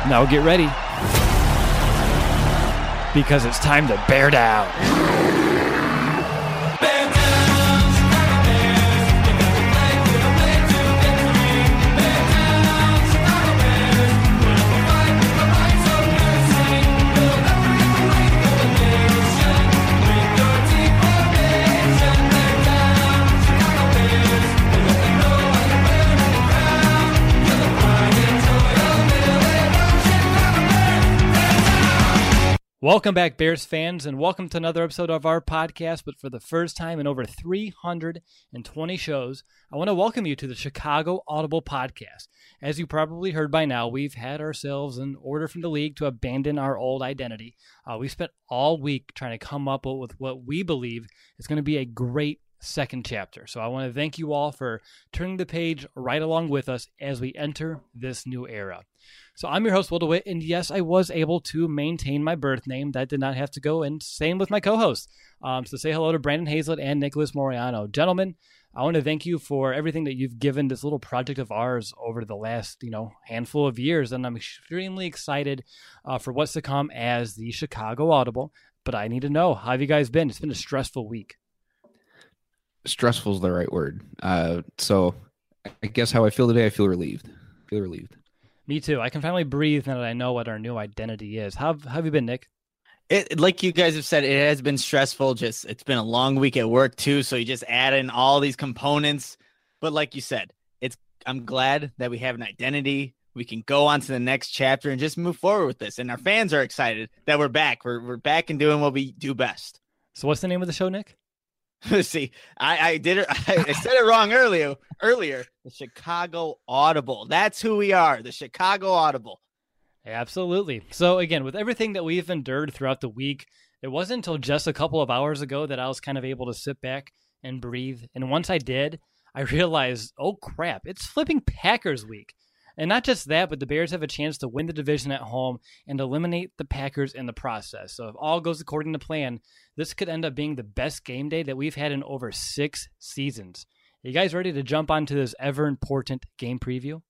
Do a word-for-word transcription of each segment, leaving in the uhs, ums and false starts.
Now get ready, because it's time to bear down. Welcome back, Bears fans, and welcome to another episode of our podcast. But for the first time in over three hundred twenty shows, I want to welcome you to the Chicago Audible Podcast. As you probably heard by now, we've had ourselves an order from the league to abandon our old identity. Uh, we spent all week trying to come up with what we believe is going to be a great second chapter. So I want to thank you all for turning the page right along with us as we enter this new era. So I'm your host, Will DeWitt, and yes, I was able to maintain my birth name. That did not have to go, and same with my co-hosts. Um, so say hello to Brandon Hazlett and Nicholas Moriano. Gentlemen, I want to thank you for everything that you've given this little project of ours over the last, you know, handful of years, and I'm extremely excited uh, for what's to come as the Chicago Audible. But I need to know, how have you guys been? It's been a stressful week. Stressful is the right word. Uh, so I guess how I feel today, I feel relieved. I feel relieved. Me too. I can finally breathe now that I know what our new identity is. How, how have you been, Nick? It, like you guys have said, it has been stressful. Just it's been a long week at work too, so you just add in all these components. But like you said, it's I'm glad that we have an identity. We can go on to the next chapter and just move forward with this. And our fans are excited that we're back. We're we're back and doing what we do best. So what's the name of the show, Nick? See, I, I did it. I, I said it wrong earlier. Earlier, the Chicago Audible. That's who we are, the Chicago Audible. Absolutely. So again, with everything that we've endured throughout the week, it wasn't until just a couple of hours ago that I was kind of able to sit back and breathe. And once I did, I realized, oh crap, it's flipping Packers week. And not just that, but the Bears have a chance to win the division at home and eliminate the Packers in the process. So if all goes according to plan, this could end up being the best game day that we've had in over six seasons. Are you guys ready to jump onto this ever-important game preview?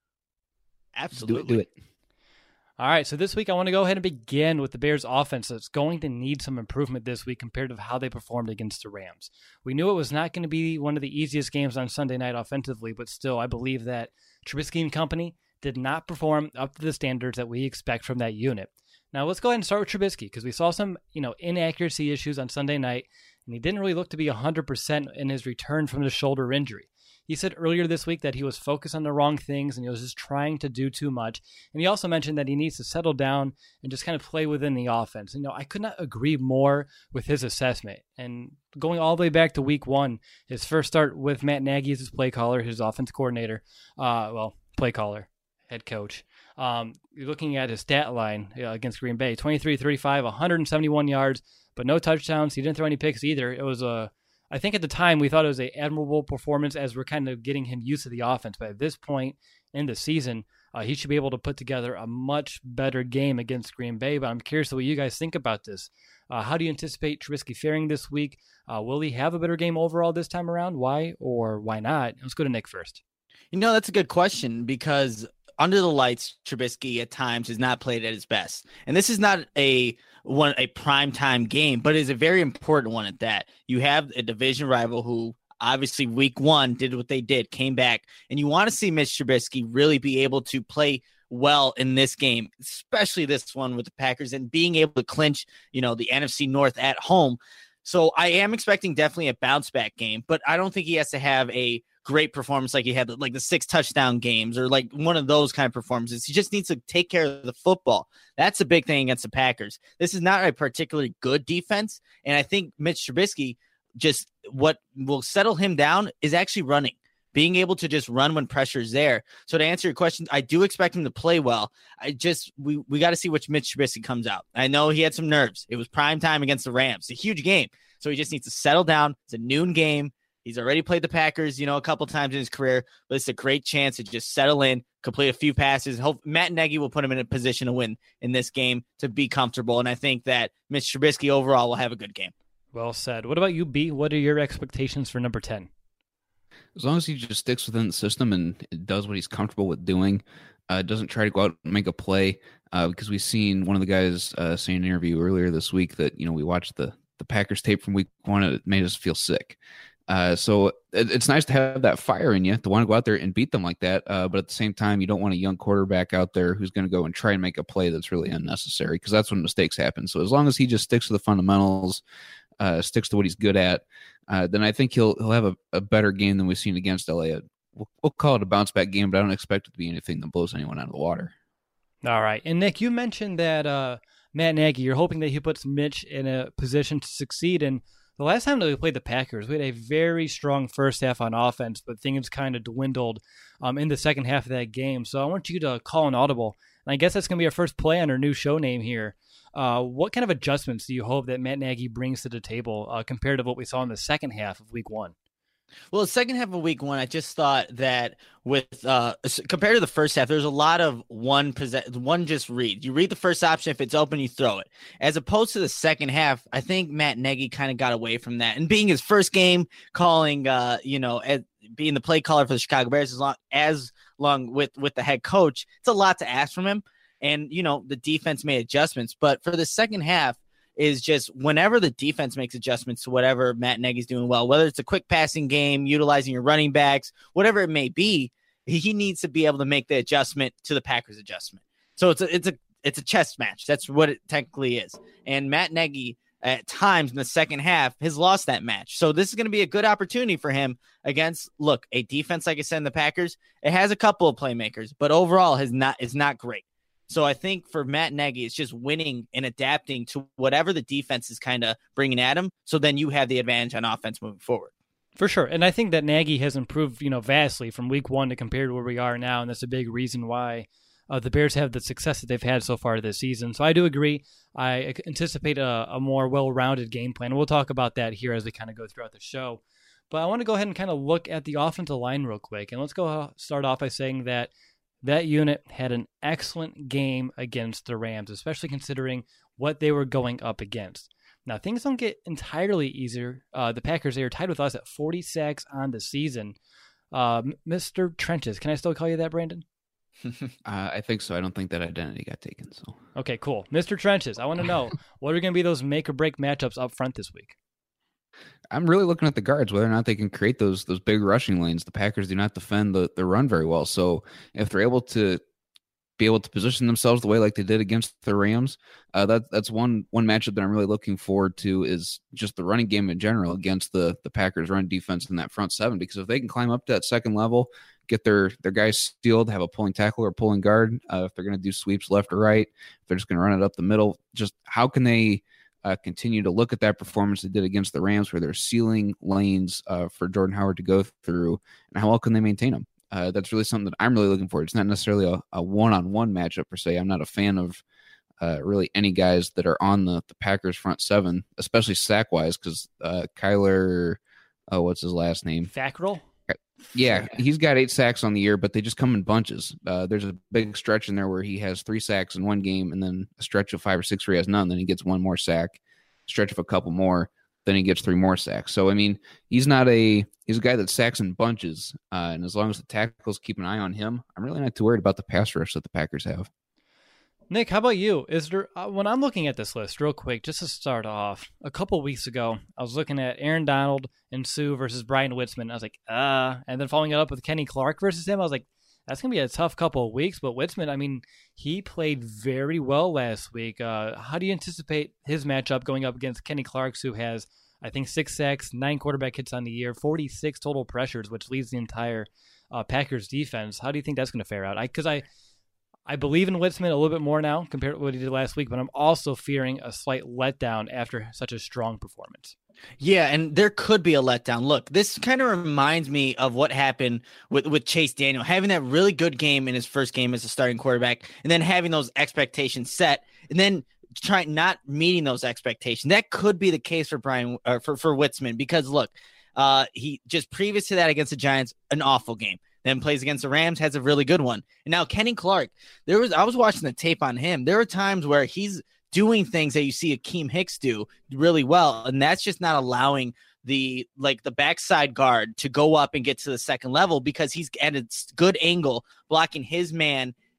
Absolutely. Do it. Do it. All right, so this week I want to go ahead and begin with the Bears offense that's going to need some improvement this week compared to how they performed against the Rams. We knew it was not going to be one of the easiest games on Sunday night offensively, but still I believe that Trubisky and company did not perform up to the standards that we expect from that unit. Now let's go ahead and start with Trubisky because we saw some, you know, inaccuracy issues on Sunday night, and he didn't really look to be one hundred percent in his return from the shoulder injury. He said earlier this week that he was focused on the wrong things and he was just trying to do too much. And he also mentioned that he needs to settle down and just kind of play within the offense. And, you know, I could not agree more with his assessment. And going all the way back to week one, his first start with Matt Nagy as his play caller, his offense coordinator, uh, well, play caller, head coach. Um, you're looking at his stat line uh, against Green Bay, twenty-three thirty-five, one hundred seventy-one yards, but no touchdowns. He didn't throw any picks either. It was a I think at the time we thought it was an admirable performance as we're kind of getting him used to the offense. But at this point in the season, uh, he should be able to put together a much better game against Green Bay. But I'm curious what you guys think about this. Uh, how do you anticipate Trubisky faring this week? Uh, will he have a better game overall this time around? Why or why not? Let's go to Nick first. You know, that's a good question because under the lights, Trubisky at times has not played at his best. And this is not a one a primetime game, but is a very important one at that. You have a division rival who obviously week one did what they did, came back, and you want to see Mitch Trubisky really be able to play well in this game, especially this one with the Packers and being able to clinch, you know, the N F C North at home. So I am expecting definitely a bounce back game, but I don't think he has to have a great performance like he had like the six touchdown games or like one of those kind of performances. He just needs to take care of the football. That's a big thing against the Packers. This is not a particularly good defense. And I think Mitch Trubisky, just what will settle him down is actually running, being able to just run when pressure is there. So to answer your question, I do expect him to play well. I just, we, we got to see which Mitch Trubisky comes out. I know he had some nerves. It was prime time against the Rams. It's a huge game. So he just needs to settle down. It's a noon game. He's already played the Packers, you know, a couple times in his career, but it's a great chance to just settle in, complete a few passes. Hope Matt Nagy will put him in a position to win in this game to be comfortable. And I think that Mitch Trubisky overall will have a good game. Well said. What about you, B? What are your expectations for number ten? As long as he just sticks within the system and does what he's comfortable with doing, uh, doesn't try to go out and make a play. Uh, because we've seen one of the guys uh, say in an interview earlier this week that, you know, we watched the, the Packers tape from week one and it made us feel sick. Uh, so it, it's nice to have that fire in you to want to go out there and beat them like that. Uh, but at the same time, you don't want a young quarterback out there who's going to go and try and make a play that's really unnecessary, because that's when mistakes happen. So as long as he just sticks to the fundamentals, uh, sticks to what he's good at, uh, then I think he'll he'll have a, a better game than we've seen against L A. We'll, we'll call it a bounce back game, but I don't expect it to be anything that blows anyone out of the water. All right. And Nick, you mentioned that uh, Matt Nagy, you're hoping that he puts Mitch in a position to succeed. And the last time that we played the Packers, we had a very strong first half on offense, but things kind of dwindled um, in the second half of that game. So I want you to call an audible. And I guess that's going to be our first play on our new show name here. Uh, what kind of adjustments do you hope that Matt Nagy brings to the table uh, compared to what we saw in the second half of week one? Well, the second half of week one, I just thought that with uh, compared to the first half, there's a lot of one possess- one just read. You read the first option. If it's open, you throw it. As opposed to the second half, I think Matt Nagy kind of got away from that. And being his first game, calling, uh, you know, as, being the play caller for the Chicago Bears as long as long with with the head coach, it's a lot to ask from him. And you know, the defense made adjustments, but for the second half, is just whenever the defense makes adjustments to whatever Matt Nagy's doing well, whether it's a quick passing game, utilizing your running backs, whatever it may be, he needs to be able to make the adjustment to the Packers adjustment. So it's a, it's a, it's a chess match. That's what it technically is. And Matt Nagy at times in the second half has lost that match. So this is going to be a good opportunity for him against, look, a defense, like I said, in the Packers, it has a couple of playmakers, but overall has not, is not great. So I think for Matt Nagy, it's just winning and adapting to whatever the defense is kind of bringing at him. So then you have the advantage on offense moving forward. For sure. And I think that Nagy has improved, you know, vastly from week one to compared to where we are now. And that's a big reason why uh, the Bears have the success that they've had so far this season. So I do agree. I anticipate a, a more well-rounded game plan. We'll talk about that here as we kind of go throughout the show. But I want to go ahead and kind of look at the offensive line real quick. And let's go start off by saying that that unit had an excellent game against the Rams, especially considering what they were going up against. Now, things don't get entirely easier. Uh, the Packers, they are tied with us at forty sacks on the season. Uh, Mister Trenches, can I still call you that, Brandon? uh, I think so. I don't think that identity got taken. So okay, cool. Mister Trenches, I want to know, what are going to be those make-or-break matchups up front this week? I'm really looking at the guards, whether or not they can create those those big rushing lanes. The Packers do not defend the, the run very well. So if they're able to be able to position themselves the way like they did against the Rams, uh, that that's one one matchup that I'm really looking forward to, is just the running game in general against the the Packers run defense in that front seven. Because if they can climb up to that second level, get their their guys steeled, have a pulling tackle or pulling guard, uh, if they're going to do sweeps left or right, if they're just going to run it up the middle, just how can they Uh, continue to look at that performance they did against the Rams, where they're sealing lanes uh, for Jordan Howard to go through, and how well can they maintain them? Uh, that's really something that I'm really looking for. It's not necessarily a, a one-on-one matchup per se. I'm not a fan of uh, really any guys that are on the, the Packers front seven, especially sack-wise, because uh, Kyler, oh, what's his last name? Fackrell? Yeah, he's got eight sacks on the year, but they just come in bunches. Uh, there's a big stretch in there where he has three sacks in one game, and then a stretch of five or six where he has none. Then he gets one more sack, stretch of a couple more, then he gets three more sacks. So, I mean, he's not a he's a guy that sacks in bunches, uh, and as long as the tackles keep an eye on him, I'm really not too worried about the pass rush that the Packers have. Nick, how about you? Is there uh, when I'm looking at this list real quick, just to start off, a couple weeks ago, I was looking at Aaron Donald and Sue versus Brian Witzman. I was like, uh, and then following it up with Kenny Clark versus him, I was like, that's going to be a tough couple of weeks. But Witzman, I mean, he played very well last week. Uh, how do you anticipate his matchup going up against Kenny Clark, who has, I think, six sacks, nine quarterback hits on the year, forty-six total pressures, which leads the entire uh, Packers defense? How do you think that's going to fare out? Because I, I I believe in Witzman a little bit more now compared to what he did last week, but I'm also fearing a slight letdown after such a strong performance. Yeah, and there could be a letdown. Look, this kind of reminds me of what happened with, with Chase Daniel, having that really good game in his first game as a starting quarterback, and then having those expectations set, and then trying not meeting those expectations. That could be the case for Brian or for, for Witzman, because look, uh, he just previous to that against the Giants, an awful game. Then plays against the Rams, has a really good one. And now Kenny Clark, there was I was watching the tape on him. There are times where he's doing things that you see Akeem Hicks do really well, and that's just not allowing the like the backside guard to go up and get to the second level, because he's at a good angle blocking his man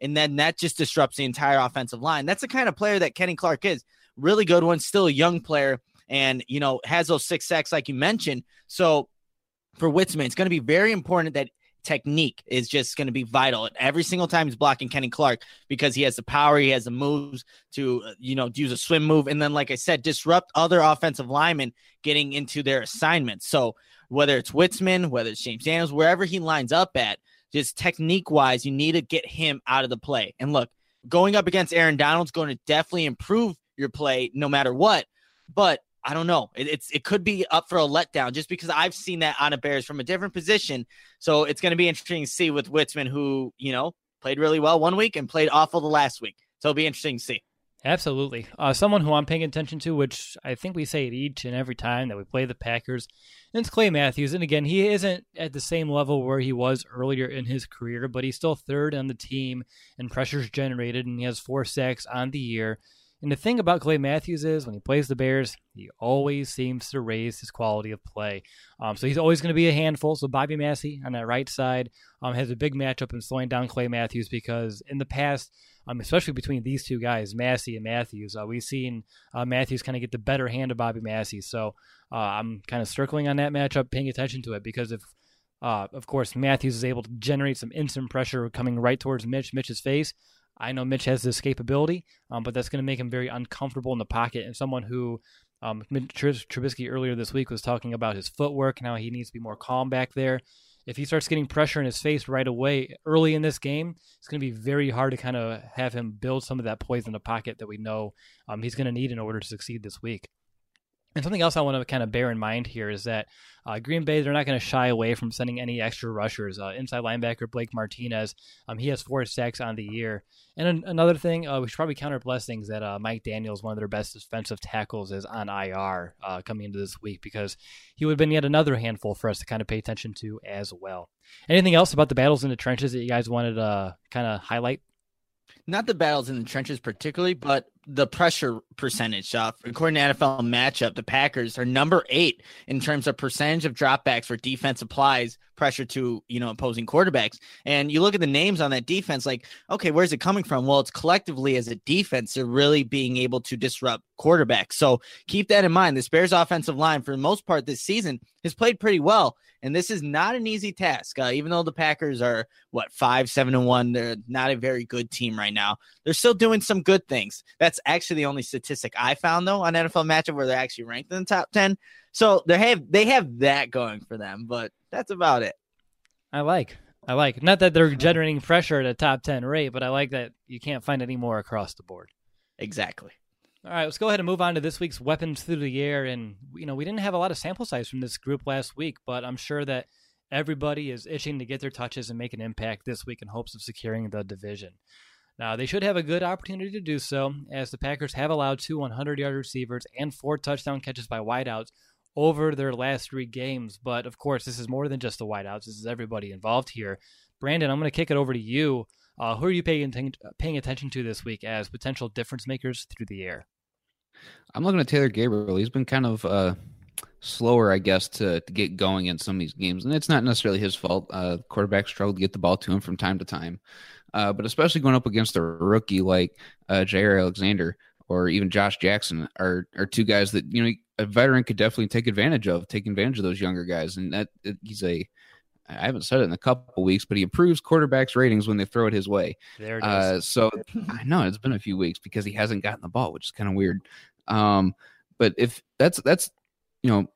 And then that just disrupts the entire offensive line. That's the kind of player that Kenny Clark is. Really good one, still a young player, and, you know, has those six sacks like you mentioned. So for Witzman, it's going to be very important that technique is just going to be vital every single time he's blocking Kenny Clark, because he has the power, he has the moves to, you know, use a swim move. And then, like I said, disrupt other offensive linemen getting into their assignments. So whether it's Witzman, whether it's James Daniels, wherever he lines up at, just technique wise, you need to get him out of the play. And look, going up against Aaron Donald's going to definitely improve your play no matter what. But I don't know. It, it's it could be up for a letdown just because I've seen that on a Bears from a different position. So it's going to be interesting to see with Witzman, who, you know, played really well one week and played awful the last week. So it'll be interesting to see. Absolutely. Uh, someone who I'm paying attention to, which I think we say it each and every time that we play the Packers, and it's Clay Matthews. And again, he isn't at the same level where he was earlier in his career, but he's still third on the team in pressures generated, and he has four sacks on the year. And the thing about Clay Matthews is when he plays the Bears, he always seems to raise his quality of play. Um, so he's always going to be a handful. So Bobby Massey on that right side um, has a big matchup in slowing down Clay Matthews, because in the past, um, especially between these two guys, Massey and Matthews, uh, we've seen uh, Matthews kind of get the better hand of Bobby Massey. So uh, I'm kind of circling on that matchup, paying attention to it, because if, uh, of course, Matthews is able to generate some instant pressure coming right towards Mitch, Mitch's face, I know Mitch has this capability, um, but that's going to make him very uncomfortable in the pocket. And someone who um, Trubisky earlier this week was talking about his footwork and how he needs to be more calm back there. If he starts getting pressure in his face right away early in this game, it's going to be very hard to kind of have him build some of that poise in the pocket that we know um, he's going to need in order to succeed this week. And something else I want to kind of bear in mind here is that uh, Green Bay, they're not going to shy away from sending any extra rushers. Uh, inside linebacker Blake Martinez, um, he has four sacks on the year. And an- another thing, uh, we should probably count our blessings that uh, Mike Daniels, one of their best defensive tackles, is on I R uh, coming into this week, because he would have been yet another handful for us to kind of pay attention to as well. Anything else about the battles in the trenches that you guys wanted to uh, kind of highlight? Not the battles in the trenches particularly, but the pressure percentage. Uh, according to N F L Matchup, the Packers are number eight in terms of percentage of dropbacks for defense applies pressure to, you know, opposing quarterbacks. And you look at the names on that defense, like, okay, where's it coming from? Well, it's collectively as a defense, they're really being able to disrupt quarterbacks. So keep that in mind. This Bears offensive line, for the most part this season, has played pretty well. And this is not an easy task. Uh, even though the Packers are, what, five, seven, and one, they're not a very good team right now. They're still doing some good things. That's actually the only statistic I found, though, on N F L Matchup where they're actually ranked in the top ten. So they have they have that going for them, but that's about it. I like. I like. Not that they're generating pressure at a top ten rate, but I like that you can't find any more across the board. Exactly. All right, let's go ahead and move on to this week's weapons through the air. And, you know, we didn't have a lot of sample size from this group last week, but I'm sure that everybody is itching to get their touches and make an impact this week in hopes of securing the division. Now, they should have a good opportunity to do so, as the Packers have allowed two hundred-yard receivers and four touchdown catches by wideouts over their last three games. But, of course, this is more than just the wideouts. This is everybody involved here. Brandon, I'm going to kick it over to you. Uh, who are you paying, paying attention to this week as potential difference makers through the air? I'm looking at Taylor Gabriel. He's been kind of uh, slower, I guess, to, to get going in some of these games. And it's not necessarily his fault. Uh, quarterbacks struggle to get the ball to him from time to time. Uh, but especially going up against a rookie like uh, Jair Alexander or even Josh Jackson are, are two guys that, you know, a veteran could definitely take advantage of, take advantage of those younger guys. And that it, he's a, I haven't said it in a couple of weeks, but he improves quarterbacks' ratings when they throw it his way. There it is. Uh, so I know it's been a few weeks because he hasn't gotten the ball, which is kind of weird. Um, but if that's, that's, you know,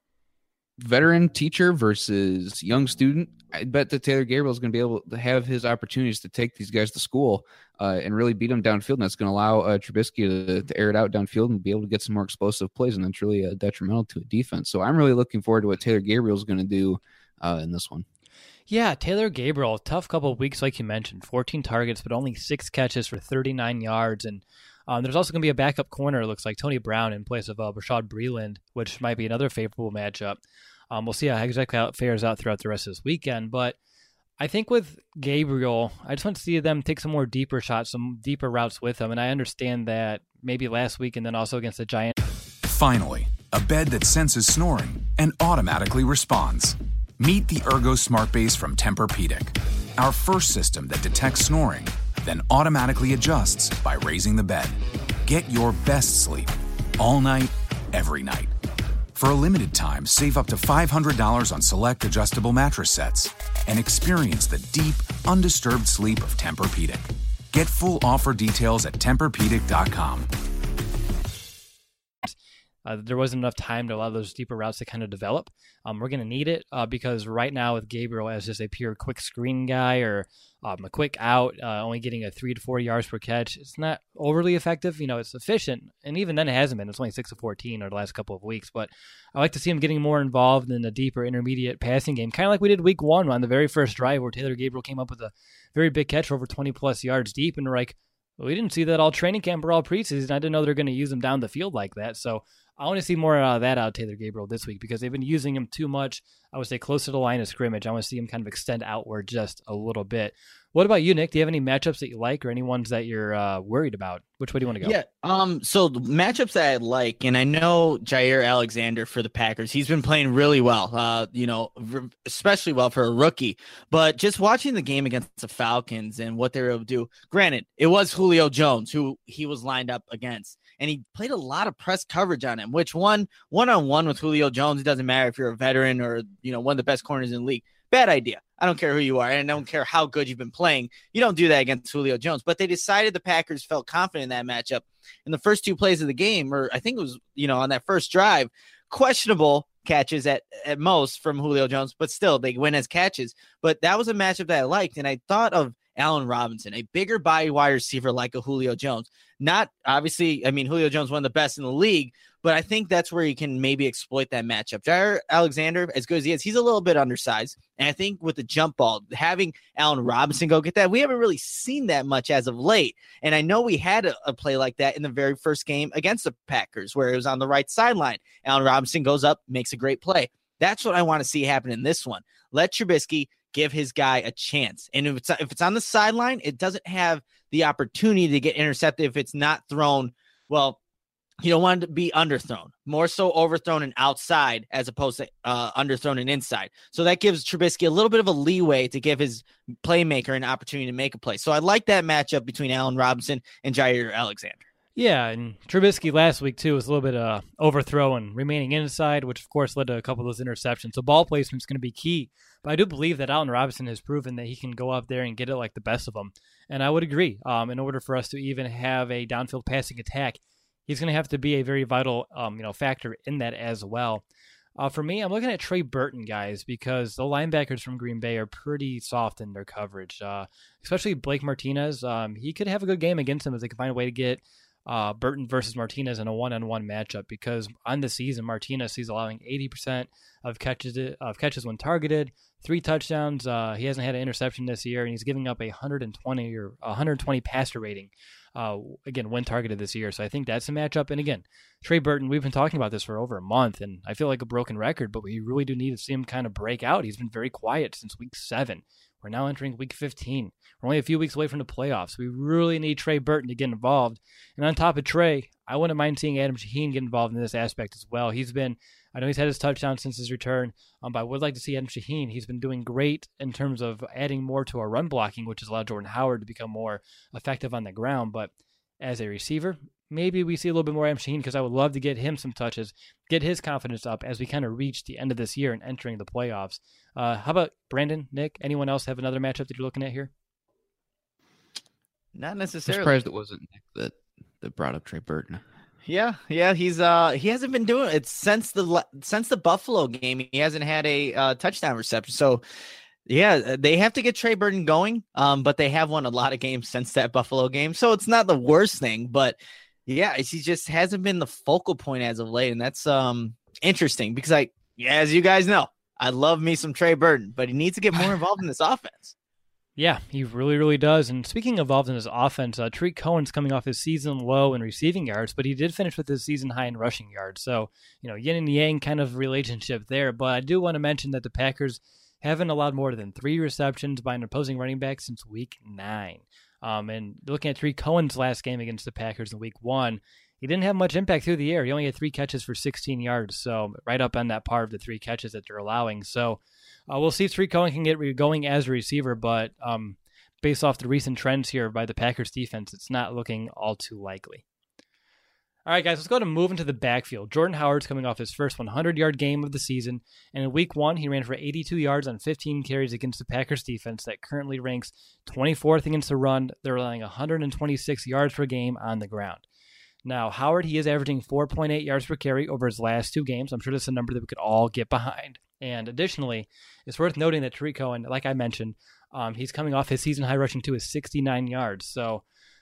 veteran teacher versus young student, I bet that Taylor Gabriel is going to be able to have his opportunities to take these guys to school uh, and really beat them downfield. And that's going to allow uh, Trubisky to, to air it out downfield and be able to get some more explosive plays. And that's really uh, detrimental to a defense. So I'm really looking forward to what Taylor Gabriel is going to do uh, in this one. Yeah, Taylor Gabriel, tough couple of weeks, like you mentioned, fourteen targets, but only six catches for thirty-nine yards. And um, there's also going to be a backup corner, it looks like, Tony Brown in place of uh, Rashad Breeland, which might be another favorable matchup. Um, we'll see how exactly how it fares out throughout the rest of this weekend. But I think with Gabriel, I just want to see them take some more deeper shots, some deeper routes with him. And I understand that maybe last week and then also against the Giants. Finally, a bed that senses snoring and automatically responds. Meet the Ergo Smart Base from Tempur-Pedic, our first system that detects snoring then automatically adjusts by raising the bed. Get your best sleep all night, every night. For a limited time, save up to five hundred dollars on select adjustable mattress sets and experience the deep, undisturbed sleep of Tempur-Pedic. Get full offer details at Tempur Pedic dot com. Uh, there wasn't enough time to allow those deeper routes to kind of develop. Um, we're going to need it uh, because right now with Gabriel as just a pure quick screen guy or um, a quick out, uh, only getting a three to four yards per catch, it's not overly effective. You know, it's efficient, and even then it hasn't been. It's only six to fourteen over the last couple of weeks. But I like to see him getting more involved in a deeper intermediate passing game, kind of like we did week one on the very first drive where Taylor Gabriel came up with a very big catch for over twenty plus yards deep, and we're like, well, we didn't see that all training camp or all preseason. I didn't know they're going to use him down the field like that. So I want to see more of that out of Taylor Gabriel this week because they've been using him too much. I would say close to the line of scrimmage. I want to see him kind of extend outward just a little bit. What about you, Nick? Do you have any matchups that you like or any ones that you're uh, worried about? Which way do you want to go? Yeah. Um. So the matchups that I like, and I know Jair Alexander for the Packers, he's been playing really well. Uh, you know, especially well for a rookie. But just watching the game against the Falcons and what they were able to do. Granted, it was Julio Jones who he was lined up against, and he played a lot of press coverage on him. Which one one on one with Julio Jones, it doesn't matter if you're a veteran or you know one of the best corners in the league. Bad idea. I don't care who you are, and I don't care how good you've been playing. You don't do that against Julio Jones. But they decided the Packers felt confident in that matchup. In the first two plays of the game, or I think it was, you know, on that first drive, questionable catches at, at most from Julio Jones, but still they win as catches. But that was a matchup that I liked, and I thought of Allen Robinson, a bigger body wide receiver like a Julio Jones. Not obviously, I mean, Julio Jones, one of the best in the league, but I think that's where you can maybe exploit that matchup. Jair Alexander, as good as he is, he's a little bit undersized. And I think with the jump ball, having Allen Robinson go get that, we haven't really seen that much as of late. And I know we had a, a play like that in the very first game against the Packers, where it was on the right sideline. Allen Robinson goes up, makes a great play. That's what I want to see happen in this one. Let Trubisky give his guy a chance. And if it's if it's on the sideline, it doesn't have the opportunity to get intercepted if it's not thrown. Well, you don't want it to be underthrown, more so overthrown and outside as opposed to uh, underthrown and inside. So that gives Trubisky a little bit of a leeway to give his playmaker an opportunity to make a play. So I like that matchup between Allen Robinson and Jair Alexander. Yeah, and Trubisky last week, too, was a little bit uh, overthrow and remaining inside, which, of course, led to a couple of those interceptions. So ball placement is going to be key. But I do believe that Allen Robinson has proven that he can go up there and get it like the best of them. And I would agree. Um, in order for us to even have a downfield passing attack, he's going to have to be a very vital um, you know, factor in that as well. Uh, for me, I'm looking at Trey Burton, guys, because the linebackers from Green Bay are pretty soft in their coverage, uh, especially Blake Martinez. Um, he could have a good game against him if they can find a way to get Uh, Burton versus Martinez in a one-on-one matchup, because on the season, Martinez he's allowing eighty percent of catches of catches when targeted, three touchdowns. Uh, he hasn't had an interception this year, and he's giving up a one hundred twenty or one hundred twenty passer rating. Uh, again, when targeted this year, so I think that's a matchup. And again, Trey Burton, we've been talking about this for over a month, and I feel like a broken record, but we really do need to see him kind of break out. He's been very quiet since week seven. We're now entering week fifteen. We're only a few weeks away from the playoffs. We really need Trey Burton to get involved. And on top of Trey, I wouldn't mind seeing Adam Shaheen get involved in this aspect as well. He's been, I know he's had his touchdown since his return, um, but I would like to see Adam Shaheen. He's been doing great in terms of adding more to our run blocking, which has allowed Jordan Howard to become more effective on the ground. But as a receiver, maybe we see a little bit more Adam Shaheen, because I would love to get him some touches, get his confidence up as we kind of reach the end of this year and entering the playoffs. Uh, how about Brandon, Nick? Anyone else have another matchup that you're looking at here? Not I'm necessarily. surprised it wasn't Nick that, that brought up Trey Burton. Yeah, yeah, he's uh he hasn't been doing it since the since the Buffalo game. He hasn't had a uh, touchdown reception. So yeah, they have to get Trey Burton going. Um, but they have won a lot of games since that Buffalo game, so it's not the worst thing. But yeah, he just hasn't been the focal point as of late, and that's um interesting because I, yeah, as you guys know, I love me some Trey Burton, but he needs to get more involved in this offense. Yeah, he really, really does. And speaking of involved in his offense, uh, Tariq Cohen's coming off his season low in receiving yards, but he did finish with his season high in rushing yards. So, you know, yin and yang kind of relationship there. But I do want to mention that the Packers haven't allowed more than three receptions by an opposing running back since week nine. Um, and looking at Tariq Cohen's last game against the Packers in week one, he didn't have much impact through the air. He only had three catches for sixteen yards, so right up on that par of the three catches that they're allowing. So uh, we'll see if Tariq Cohen can get going as a receiver, but um, based off the recent trends here by the Packers defense, it's not looking all too likely. All right, guys, let's go to move into the backfield. Jordan Howard's coming off his first hundred-yard game of the season, and in week one, he ran for eighty-two yards on fifteen carries against the Packers defense that currently ranks twenty-fourth against the run. They're relying one hundred twenty-six yards per game on the ground. Now, Howard, he is averaging four point eight yards per carry over his last two games. I'm sure that's a number that we could all get behind. And additionally, it's worth noting that Tariq Cohen, like I mentioned, um, he's coming off his season high rushing to his sixty-nine yards. So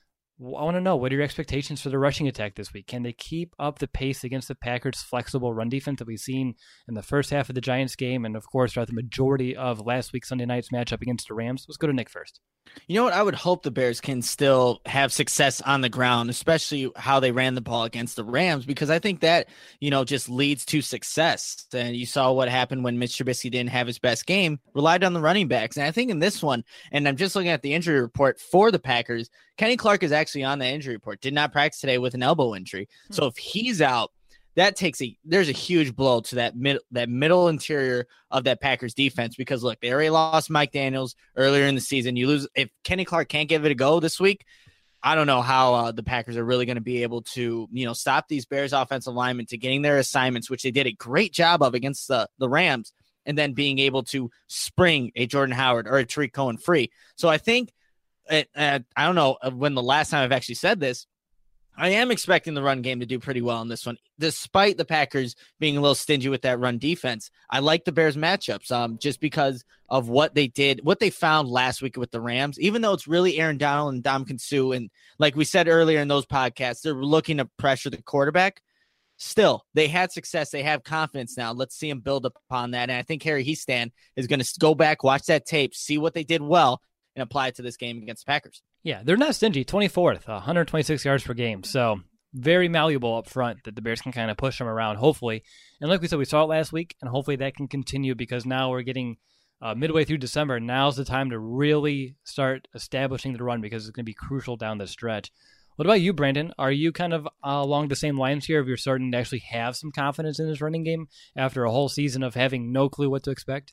I want to know, what are your expectations for the rushing attack this week? Can they keep up the pace against the Packers' flexible run defense that we've seen in the first half of the Giants game and, of course, throughout the majority of last week's Sunday night's matchup against the Rams? Let's go to Nick first. You know what? I would hope the Bears can still have success on the ground, especially how they ran the ball against the Rams, because I think that, you know, just leads to success. And you saw what happened when Mitch Trubisky didn't have his best game, relied on the running backs. And I think in this one, and I'm just looking at the injury report for the Packers, Kenny Clark is actually on the injury report, did not practice today with an elbow injury. Hmm. So if he's out, that takes a, there's a huge blow to that mid, that middle interior of that Packers defense, because look, they already lost Mike Daniels earlier in the season. You lose, if Kenny Clark can't give it a go this week, I don't know how uh, the Packers are really going to be able to, you know, stop these Bears offensive linemen to getting their assignments, which they did a great job of against the, the Rams, and then being able to spring a Jordan Howard or a Tariq Cohen free. So I think, it, uh, I don't know when the last time I've actually said this, I am expecting the run game to do pretty well in this one, despite the Packers being a little stingy with that run defense. I like the Bears matchups um, just because of what they did, what they found last week with the Rams, even though it's really Aaron Donald and Ndamukong Suh. And like we said earlier in those podcasts, they're looking to pressure the quarterback. Still, they had success. They have confidence now. Let's see them build upon that. And I think Harry Hiestand is going to go back, watch that tape, see what they did well, and apply it to this game against the Packers. Yeah, they're not stingy. twenty-fourth, one hundred twenty-six yards per game. So very malleable up front that the Bears can kind of push them around, hopefully. And like we said, we saw it last week, and hopefully that can continue, because now we're getting uh, midway through December. Now's the time to really start establishing the run, because it's going to be crucial down the stretch. What about you, Brandon? Are you kind of uh, along the same lines here, if you're starting to actually have some confidence in this running game after a whole season of having no clue what to expect?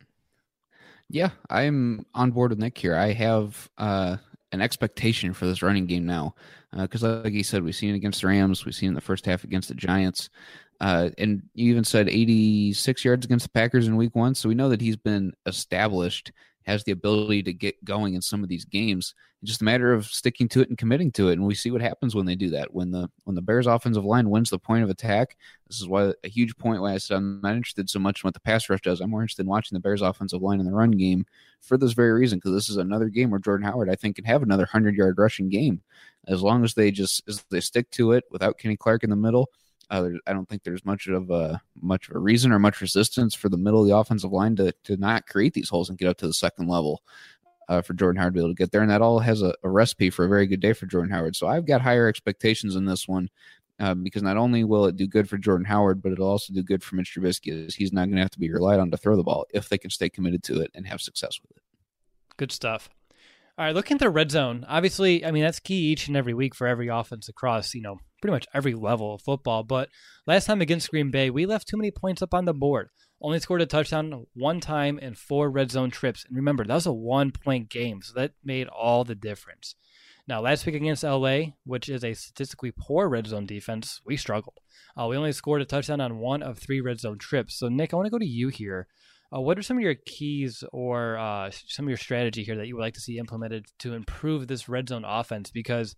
Yeah, I'm on board with Nick here. I have uh, an expectation for this running game now, because uh, like you said, we've seen it against the Rams, we've seen it in the first half against the Giants, uh, and you even said eighty-six yards against the Packers in week one, so we know that he's been established, has the ability to get going in some of these games. It's just a matter of sticking to it and committing to it, and we see what happens when they do that. When the when the Bears offensive line wins the point of attack, this is why a huge point why I said I'm not interested so much in what the pass rush does. I'm more interested in watching the Bears offensive line in the run game for this very reason, because this is another game where Jordan Howard, I think, can have another hundred-yard rushing game. As long as they just as they stick to it without Kenny Clark in the middle, uh, I don't think there's much of a much of a reason or much resistance for the middle of the offensive line to to not create these holes and get up to the second level. Uh, for Jordan Howard to be able to get there, and that all has a, a recipe for a very good day for Jordan Howard. So I've got higher expectations in this one, uh, because not only will it do good for Jordan Howard, but it'll also do good for Mitch Trubisky, as he's not going to have to be relied on to throw the ball if they can stay committed to it and have success with it. Good stuff. All right, looking at the red zone, obviously, I mean, that's key each and every week for every offense across, you know, pretty much every level of football. But last time against Green Bay, we left too many points up on the board. Only scored a touchdown one time in four red zone trips. And remember, that was a one-point game, so that made all the difference. Now, last week against L A, which is a statistically poor red zone defense, we struggled. Uh, we only scored a touchdown on one of three red zone trips. So, Nick, I want to go to you here. Uh, what are some of your keys or uh, some of your strategy here that you would like to see implemented to improve this red zone offense? Because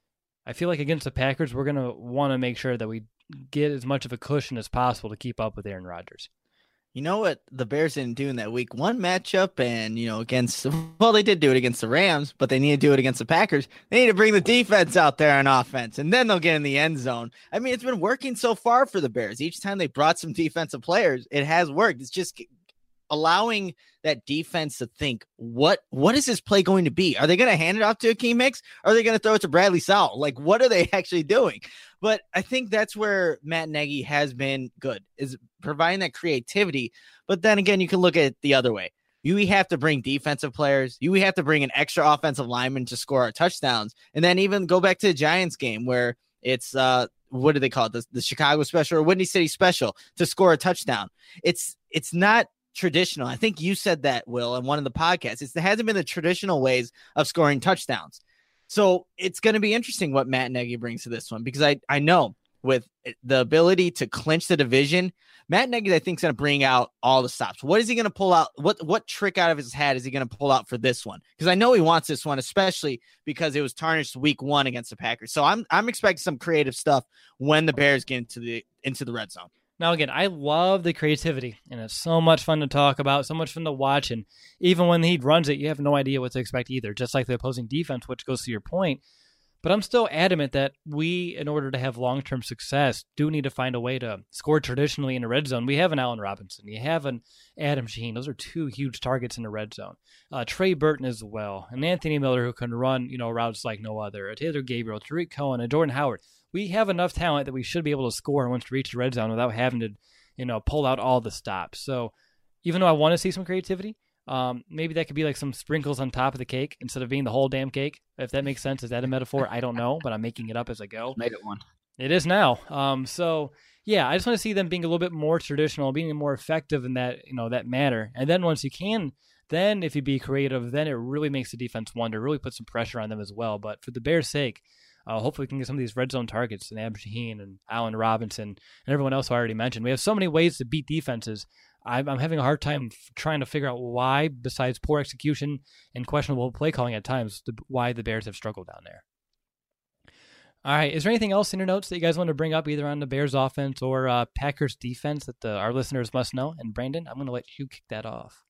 I feel like against the Packers, we're going to want to make sure that we get as much of a cushion as possible to keep up with Aaron Rodgers. You know what the Bears didn't do in that week one matchup, and, you know, against, well, they did do it against the Rams, but they need to do it against the Packers. They need to bring the defense out there on offense, and then they'll get in the end zone. I mean, it's been working so far for the Bears. Each time they brought some defensive players, it has worked. It's just allowing that defense to think, what what is this play going to be? Are they going to hand it off to Akeem Hicks? Or are they going to throw it to Bradley Sowell? Like, what are they actually doing? But I think that's where Matt Nagy has been good, is providing that creativity. But then again, you can look at it the other way. You have to bring defensive players. You have to bring an extra offensive lineman to score our touchdowns. And then even go back to the Giants game where it's, uh, what do they call it? The, the Chicago special or Windy City special to score a touchdown. It's, it's not traditional. I think you said that, Will, in one of the podcasts. It's, it hasn't been the traditional ways of scoring touchdowns. So it's going to be interesting what Matt Nagy brings to this one, because I, I know with the ability to clinch the division, Matt Nagy, I think, is going to bring out all the stops. What is he going to pull out? What what trick out of his hat is he going to pull out for this one? Because I know he wants this one, especially because it was tarnished week one against the Packers. So I'm I'm expecting some creative stuff when the Bears get into the into the red zone. Now, again, I love the creativity, and it's so much fun to talk about, so much fun to watch, and even when he runs it, you have no idea what to expect either, just like the opposing defense, which goes to your point. But I'm still adamant that we, in order to have long-term success, do need to find a way to score traditionally in the red zone. We have an Allen Robinson. You have an Adam Shaheen. Those are two huge targets in the red zone. Uh, Trey Burton as well. And Anthony Miller, who can run, you know, routes like no other. A Taylor Gabriel, Tariq Cohen, and Jordan Howard. We have enough talent that we should be able to score once we reach the red zone without having to, you know, pull out all the stops. So even though I want to see some creativity, Um, maybe that could be like some sprinkles on top of the cake instead of being the whole damn cake. If that makes sense. Is that a metaphor? I don't know, but I'm making it up as I go. Made it one. It is now. Um, so yeah, I just want to see them being a little bit more traditional, being more effective in that, you know, that manner. And then once you can, then if you be creative, then it really makes the defense wonder, really put some pressure on them as well. But for the Bears' sake, uh, hopefully we can get some of these red zone targets and Adam Shaheen and Allen Robinson and everyone else who I already mentioned. We have so many ways to beat defenses. I'm having a hard time trying to figure out why, besides poor execution and questionable play calling at times, why the Bears have struggled down there. All right. Is there anything else in your notes that you guys want to bring up, either on the Bears offense or uh, Packers defense, that the, our listeners must know? And Brandon, I'm going to let you kick that off.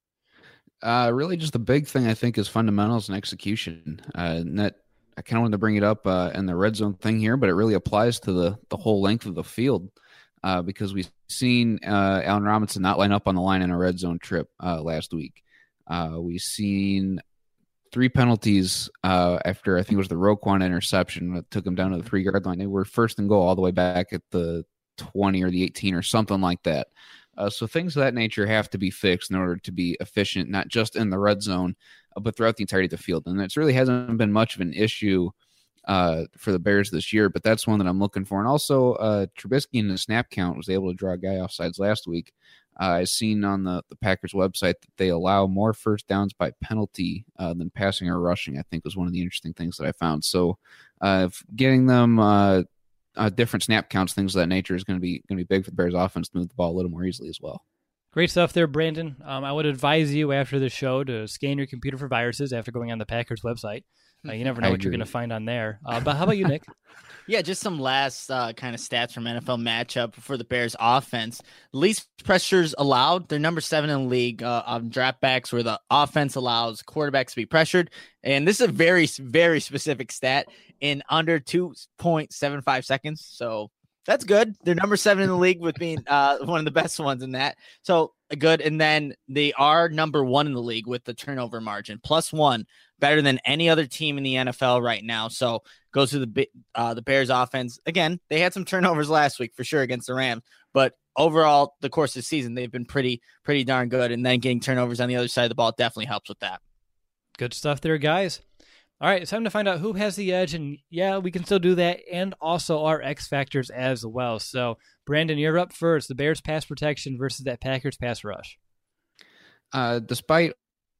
Uh, really, just the big thing I think is fundamentals and execution. Uh, and that I kind of wanted to bring it up uh, in the red zone thing here, but it really applies to the the whole length of the field. Uh, because we've seen uh, Allen Robinson not line up on the line in a red zone trip uh, last week. Uh, we've seen three penalties uh, after, I think it was the Roquan interception that took him down to the three-yard line. They were first and goal all the way back at the twenty or the eighteen or something like that. Uh, so things of that nature have to be fixed in order to be efficient, not just in the red zone, uh, but throughout the entirety of the field. And it really hasn't been much of an issue uh, for the Bears this year, but that's one that I'm looking for. And also, uh, Trubisky in the snap count was able to draw a guy off sides last week. Uh, I've seen on the, the Packers website that they allow more first downs by penalty uh, than passing or rushing, I think was one of the interesting things that I found. So uh, getting them uh, uh, different snap counts, things of that nature, is going to be going to be big for the Bears offense to move the ball a little more easily as well. Great stuff there, Brandon. Um, I would advise you after the show to scan your computer for viruses after going on the Packers website. Uh, you never know I what agree. you're going to find on there. Uh, but how about you, Nick? Yeah, just some last uh, kind of stats from N F L matchup for the Bears offense. Least pressures allowed. They're number seven in the league uh, on dropbacks, where the offense allows quarterbacks to be pressured. And this is a very, very specific stat in under two point seven five seconds. So that's good. They're number seven in the league with being uh, one of the best ones in that. So good. And then they are number one in the league with the turnover margin, plus one, better than any other team in the N F L right now. So goes to the uh, the Bears offense. Again, they had some turnovers last week for sure against the Rams, but overall, the course of the season, they've been pretty, pretty darn good. And then getting turnovers on the other side of the ball definitely helps with that. Good stuff there, guys. All right, it's time to find out who has the edge, and yeah, we can still do that, and also our X factors as well. So, Brandon, you're up first. The Bears pass protection versus that Packers pass rush. Uh, despite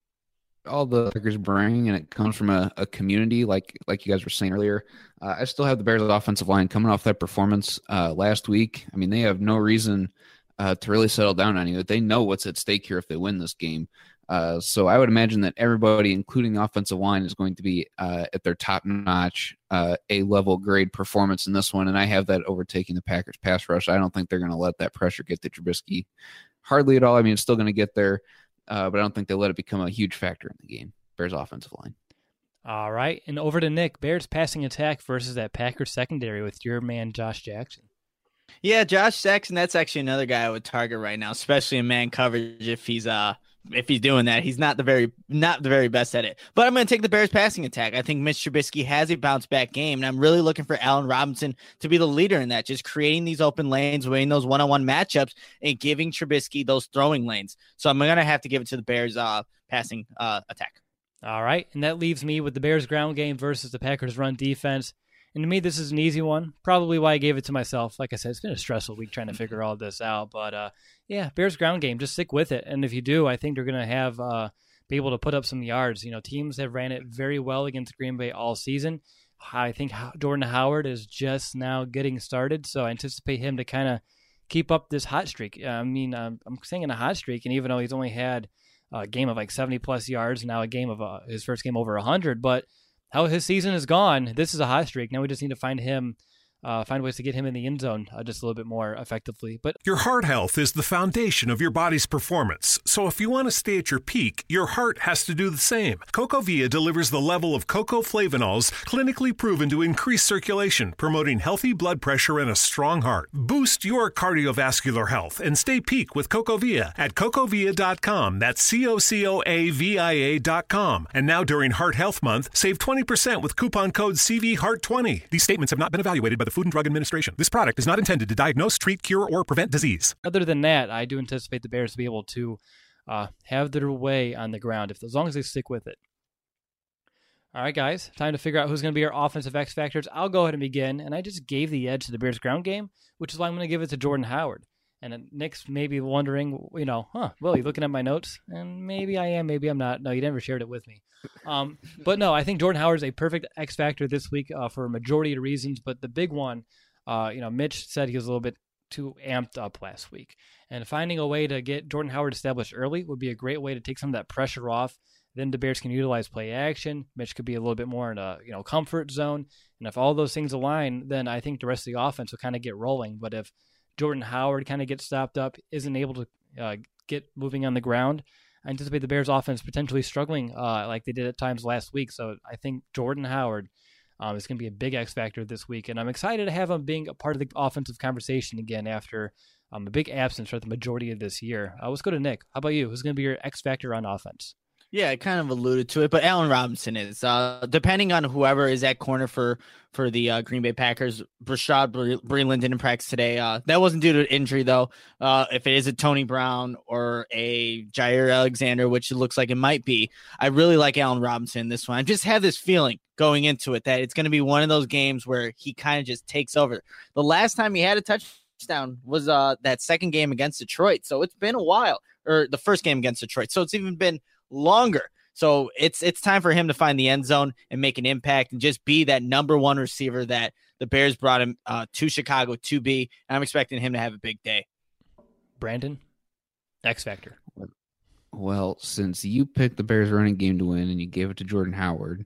all the Packers bring, and it comes from a, a community like like you guys were saying earlier, uh, I still have the Bears offensive line coming off that performance uh, last week. I mean, they have no reason uh, to really settle down on it. They know what's at stake here if they win this game. Uh, so I would imagine that everybody, including the offensive line, is going to be uh, at their top-notch uh, A-level grade performance in this one, and I have that overtaking the Packers pass rush. I don't think they're going to let that pressure get to Trubisky hardly at all. I mean, it's still going to get there, uh, but I don't think they'll let it become a huge factor in the game. Bears offensive line. All right, and over to Nick. Bears passing attack versus that Packers secondary with your man Josh Jackson. Yeah, Josh Jackson, that's actually another guy I would target right now, especially in man coverage if he's uh if he's doing that. He's not the very not the very best at it. But I'm going to take the Bears passing attack. I think Mitch Trubisky has a bounce back game, and I'm really looking for Allen Robinson to be the leader in that, just creating these open lanes, winning those one-on-one matchups, and giving Trubisky those throwing lanes. So I'm going to have to give it to the Bears uh passing uh attack. All right, and that leaves me with the Bears ground game versus the Packers run defense. And to me, this is an easy one. Probably why I gave it to myself. Like I said, it's been a stressful week trying to figure all this out. But uh, yeah, Bears ground game. Just stick with it. And if you do, I think they're going to have uh, be able to put up some yards. You know, teams have ran it very well against Green Bay all season. I think Jordan Howard is just now getting started, so I anticipate him to kind of keep up this hot streak. I mean, I'm, I'm saying a hot streak, and even though he's only had a game of like seventy plus yards, now a game of uh, his first game over one hundred, but how his season has gone, this is a hot streak. Now we just need to find him, uh, find ways to get him in the end zone uh, just a little bit more effectively. But your heart health is the foundation of your body's performance. So if you want to stay at your peak, your heart has to do the same. CocoVia delivers the level of cocoflavanols clinically proven to increase circulation, promoting healthy blood pressure and a strong heart. Boost your cardiovascular health and stay peak with CocoVia at cocovia dot com. That's C O C O A V I A dot com. And now during Heart Health Month, save twenty percent with coupon code C V Heart twenty. These statements have not been evaluated by the Food and Drug Administration. This product is not intended to diagnose, treat, cure, or prevent disease. Other than that, I do anticipate the Bears to be able to uh, have their way on the ground, if as long as they stick with it. All right, guys, time to figure out who's going to be our offensive X factors. I'll go ahead and begin, and I just gave the edge to the Bears ground game, which is why I'm going to give it to Jordan Howard. And Nick's maybe wondering, you know, huh, Will, you looking at my notes? And maybe I am, maybe I'm not. No, you never shared it with me. Um, but no, I think Jordan Howard is a perfect X factor this week uh, for a majority of reasons. But the big one, uh, you know, Mitch said he was a little bit too amped up last week. And finding a way to get Jordan Howard established early would be a great way to take some of that pressure off. Then the Bears can utilize play action. Mitch could be a little bit more in a, you know, comfort zone. And if all those things align, then I think the rest of the offense will kind of get rolling. But if Jordan Howard kind of gets stopped up, isn't able to uh, get moving on the ground, I anticipate the Bears offense potentially struggling uh, like they did at times last week. So I think Jordan Howard um, is going to be a big X factor this week. And I'm excited to have him being a part of the offensive conversation again after um, a big absence for the majority of this year. Uh, let's go to Nick. How about you? Who's going to be your X factor on offense? Yeah, I kind of alluded to it, but Allen Robinson is, uh, depending on whoever is at corner for for the uh, Green Bay Packers. Rashad Breeland didn't practice today. Uh, that wasn't due to injury, though. Uh, if it is a Tony Brown or a Jair Alexander, which it looks like it might be, I really like Allen Robinson in this one. I just have this feeling going into it that it's going to be one of those games where he kind of just takes over. The last time he had a touchdown was uh, that second game against Detroit, so it's been a while, or the first game against Detroit, so it's even been longer. So it's it's time for him to find the end zone and make an impact and just be that number one receiver that the Bears brought him uh, to Chicago to be. And I'm expecting him to have a big day. Brandon, X factor. Well, since you picked the Bears running game to win and you gave it to Jordan Howard,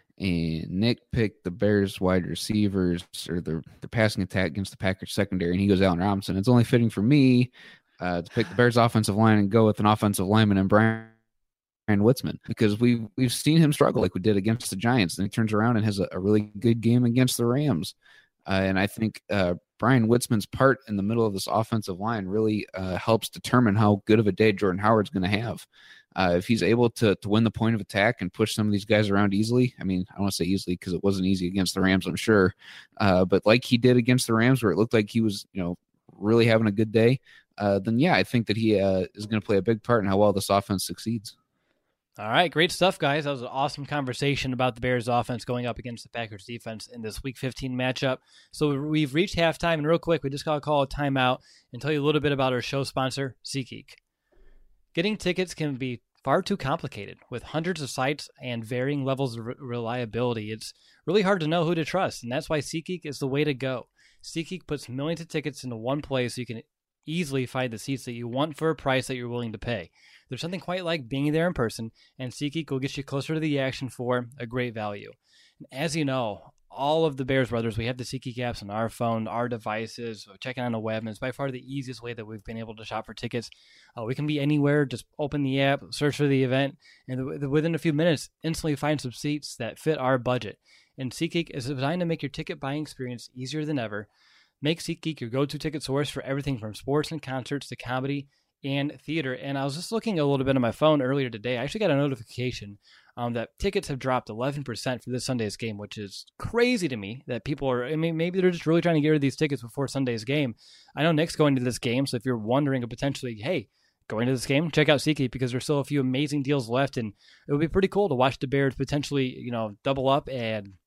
and Nick picked the Bears wide receivers or the, the passing attack against the Packers secondary, and he goes Allen Robinson, it's only fitting for me uh, to pick the Bears offensive line and go with an offensive lineman and Brian Witzman, because we've we've seen him struggle like we did against the Giants, and he turns around and has a, a really good game against the Rams. Uh, and I think uh, Brian Witzman's part in the middle of this offensive line really uh, helps determine how good of a day Jordan Howard's going to have. Uh, if he's able to to win the point of attack and push some of these guys around easily, I mean, I don't want to say easily because it wasn't easy against the Rams, I'm sure, uh, but like he did against the Rams, where it looked like he was, you know, really having a good day, uh, then yeah, I think that he uh, is going to play a big part in how well this offense succeeds. All right, great stuff, guys. That was an awesome conversation about the Bears offense going up against the Packers defense in this Week fifteen matchup. So we've reached halftime, and real quick, we just got to call a timeout and tell you a little bit about our show sponsor, SeatGeek. Getting tickets can be far too complicated. With hundreds of sites and varying levels of re- reliability, it's really hard to know who to trust, and that's why SeatGeek is the way to go. SeatGeek puts millions of tickets into one place so you can easily find the seats that you want for a price that you're willing to pay. There's something quite like being there in person, and SeatGeek will get you closer to the action for a great value. And as you know, all of the Bears brothers, we have the SeatGeek apps on our phone, our devices, checking on the web, and it's by far the easiest way that we've been able to shop for tickets. Uh, we can be anywhere, just open the app, search for the event, and within a few minutes, instantly find some seats that fit our budget. And SeatGeek is designed to make your ticket buying experience easier than ever. Make SeatGeek your go-to ticket source for everything from sports and concerts to comedy and theater. And I was just looking a little bit on my phone earlier today. I actually got a notification um, that tickets have dropped eleven percent for this Sunday's game, which is crazy to me that people are, I mean, maybe they're just really trying to get rid of these tickets before Sunday's game. I know Nick's going to this game, so if you're wondering potentially, hey, going to this game, check out SeatGeek because there's still a few amazing deals left, and it would be pretty cool to watch the Bears potentially, you know, double up and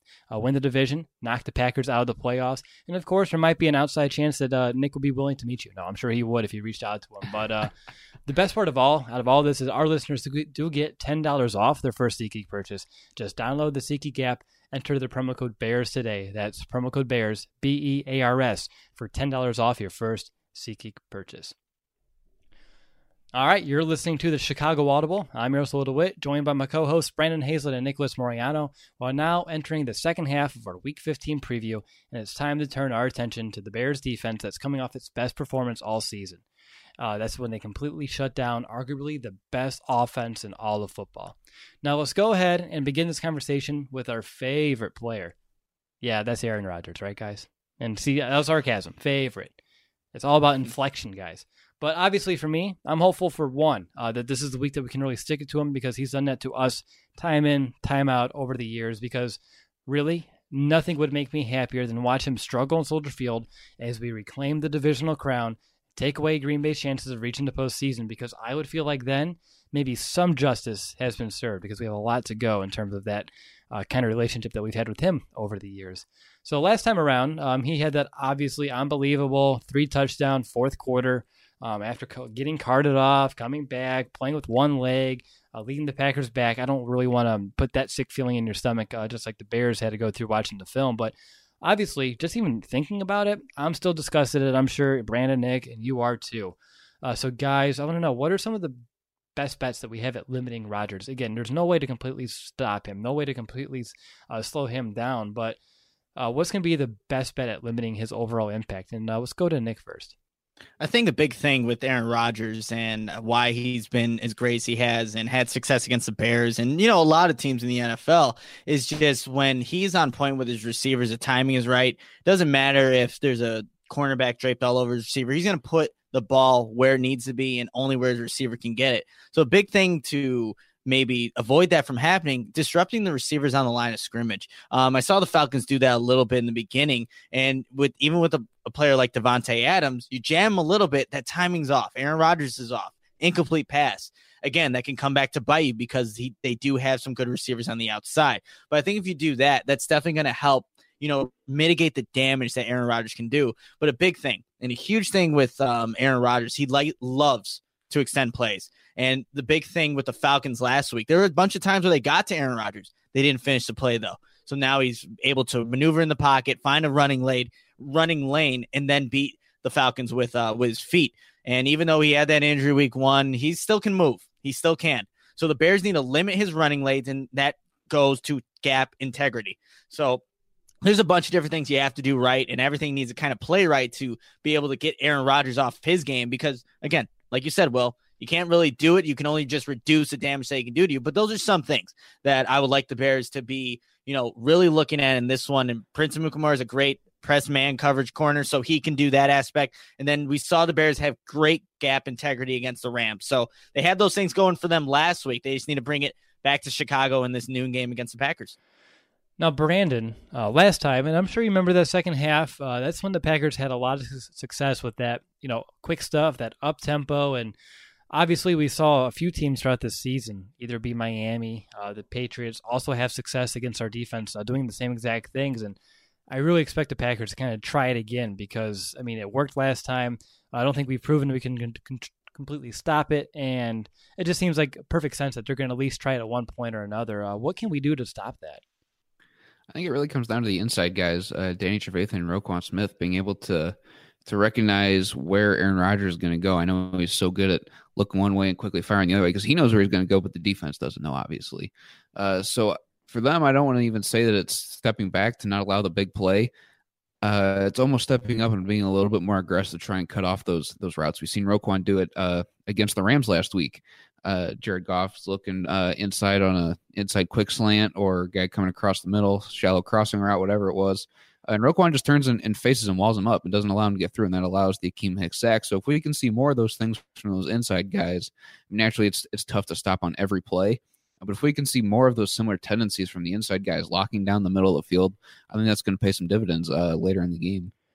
uh, win the division, knock the Packers out of the playoffs. And, of course, there might be an outside chance that uh, Nick will be willing to meet you. No, I'm sure he would if you reached out to him. But uh, the best part of all, out of all this, is our listeners do get ten dollars off their first SeatGeek purchase. Just download the SeatGeek app, enter the promo code BEARS today. That's promo code BEARS, B E A R S, for ten dollars off your first SeatGeek purchase. All right, you're listening to the Chicago Audible. I'm Miroslav DeWitt, joined by my co-hosts Brandon Hazlett and Nicholas Moriano. We're now entering the second half of our Week fifteen preview, and it's time to turn our attention to the Bears defense that's coming off its best performance all season. Uh, that's when they completely shut down arguably the best offense in all of football. Now let's go ahead and begin this conversation with our favorite player. Yeah, that's Aaron Rodgers, right, guys? And see, that was sarcasm. Favorite. It's all about inflection, guys. But obviously for me, I'm hopeful for one, uh, that this is the week that we can really stick it to him, because he's done that to us time in, time out over the years, because really nothing would make me happier than watch him struggle in Soldier Field as we reclaim the divisional crown, take away Green Bay's chances of reaching the postseason, because I would feel like then maybe some justice has been served, because we have a lot to go in terms of that uh, kind of relationship that we've had with him over the years. So last time around, um, he had that obviously unbelievable three touchdown fourth quarter, Um, after co- getting carted off, coming back, playing with one leg, uh, leading the Packers back. I don't really want to put that sick feeling in your stomach, uh, just like the Bears had to go through watching the film. But obviously, just even thinking about it, I'm still disgusted at it. I'm sure Brandon, Nick, and you are too. Uh, so, guys, I want to know, what are some of the best bets that we have at limiting Rodgers? Again, there's no way to completely stop him, no way to completely uh, slow him down. But uh, what's going to be the best bet at limiting his overall impact? And uh, let's go to Nick first. I think the big thing with Aaron Rodgers and why he's been as great as he has and had success against the Bears and, you know, a lot of teams in the N F L is just when he's on point with his receivers, the timing is right. Doesn't matter if there's a cornerback draped all over his receiver. He's going to put the ball where it needs to be and only where his receiver can get it. So a big thing to maybe avoid that from happening, disrupting the receivers on the line of scrimmage. Um, I saw the Falcons do that a little bit in the beginning, and with even with a, a player like Devontae Adams, you jam a little bit, that timing's off. Aaron Rodgers is off. Incomplete pass. Again, that can come back to bite you because he, they do have some good receivers on the outside. But I think if you do that, that's definitely going to help, you know, mitigate the damage that Aaron Rodgers can do. But a big thing and a huge thing with um, Aaron Rodgers, he like loves to extend plays. And the big thing with the Falcons last week, there were a bunch of times where they got to Aaron Rodgers. They didn't finish the play, though. So now he's able to maneuver in the pocket, find a running lane, running lane, and then beat the Falcons with uh, with his feet. And even though he had that injury week one, he still can move. He still can. So the Bears need to limit his running lanes, and that goes to gap integrity. So there's a bunch of different things you have to do right, and everything needs to kind of play right to be able to get Aaron Rodgers off his game because, again, like you said, Will, you can't really do it. You can only just reduce the damage that he can do to you. But those are some things that I would like the Bears to be, you know, really looking at in this one. And Prince Amukamara is a great press man coverage corner, so he can do that aspect. And then we saw the Bears have great gap integrity against the Rams. So they had those things going for them last week. They just need to bring it back to Chicago in this noon game against the Packers. Now, Brandon, uh, last time, and I'm sure you remember that second half, uh, that's when the Packers had a lot of success with that, you know, quick stuff, that up-tempo, and obviously we saw a few teams throughout this season, either be Miami, uh, the Patriots, also have success against our defense, uh, doing the same exact things, and I really expect the Packers to kind of try it again because, I mean, it worked last time. I don't think we've proven we can con- con- completely stop it, and it just seems like perfect sense that they're going to at least try it at one point or another. Uh, what can we do to stop that? I think it really comes down to the inside guys, uh, Danny Trevathan and Roquan Smith, being able to to recognize where Aaron Rodgers is going to go. I know he's so good at looking one way and quickly firing the other way because he knows where he's going to go, but the defense doesn't know, obviously. Uh, so for them, I don't want to even say that it's stepping back to not allow the big play. Uh, it's almost stepping up and being a little bit more aggressive to try and cut off those those routes. We've seen Roquan do it uh, against the Rams last week. Uh, Jared Goff's looking uh, inside on a inside quick slant or a guy coming across the middle, shallow crossing route, whatever it was. Uh, and Roquan just turns and, and faces him, walls him up, and doesn't allow him to get through, and that allows the Akeem Hicks sack. So if we can see more of those things from those inside guys, naturally it's it's tough to stop on every play. But if we can see more of those similar tendencies from the inside guys locking down the middle of the field, I think that's going to pay some dividends uh, later in the game.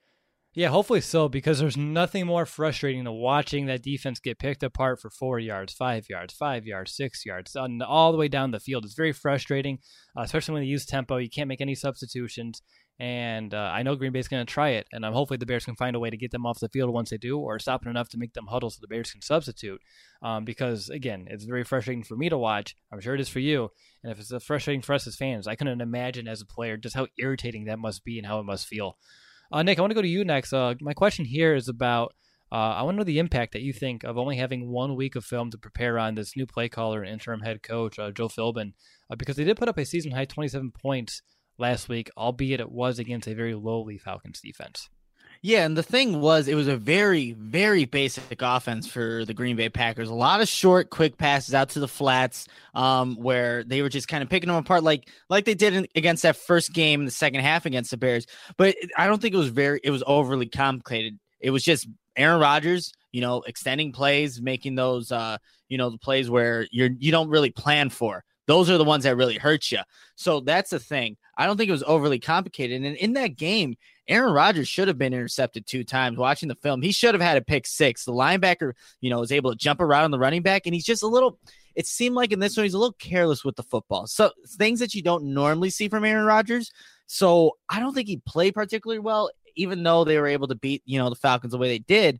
Yeah, hopefully so, because there's nothing more frustrating than watching that defense get picked apart for four yards, five yards, five yards, six yards, and all the way down the field. It's very frustrating, uh, especially when they use tempo. You can't make any substitutions, and uh, I know Green Bay's going to try it, and I'm hopefully the Bears can find a way to get them off the field once they do, or stop it enough to make them huddle so the Bears can substitute, um, because, again, it's very frustrating for me to watch. I'm sure it is for you, and if it's frustrating for us as fans, I couldn't imagine as a player just how irritating that must be and how it must feel. Uh, Nick, I want to go to you next. Uh, my question here is about, uh, I want to know the impact that you think of only having one week of film to prepare on this new play caller and interim head coach, uh, Joe Philbin, uh, because they did put up a season-high twenty-seven points last week, albeit it was against a very lowly Falcons defense. Yeah, and the thing was, it was a very, very basic offense for the Green Bay Packers. A lot of short, quick passes out to the flats, um, where they were just kind of picking them apart, like like they did in, against that first game in the second half against the Bears. But I don't think it was very, it was overly complicated. It was just Aaron Rodgers, you know, extending plays, making those, uh, you know, the plays where you're you don't really plan for. Those are the ones that really hurt you. So that's the thing. I don't think it was overly complicated. And in that game, Aaron Rodgers should have been intercepted two times. Watching the film, he should have had a pick six. The linebacker, you know, was able to jump around on the running back, and he's just a little, it seemed like in this one, he's a little careless with the football. So things that you don't normally see from Aaron Rodgers. So I don't think he played particularly well, even though they were able to beat, you know, the Falcons the way they did.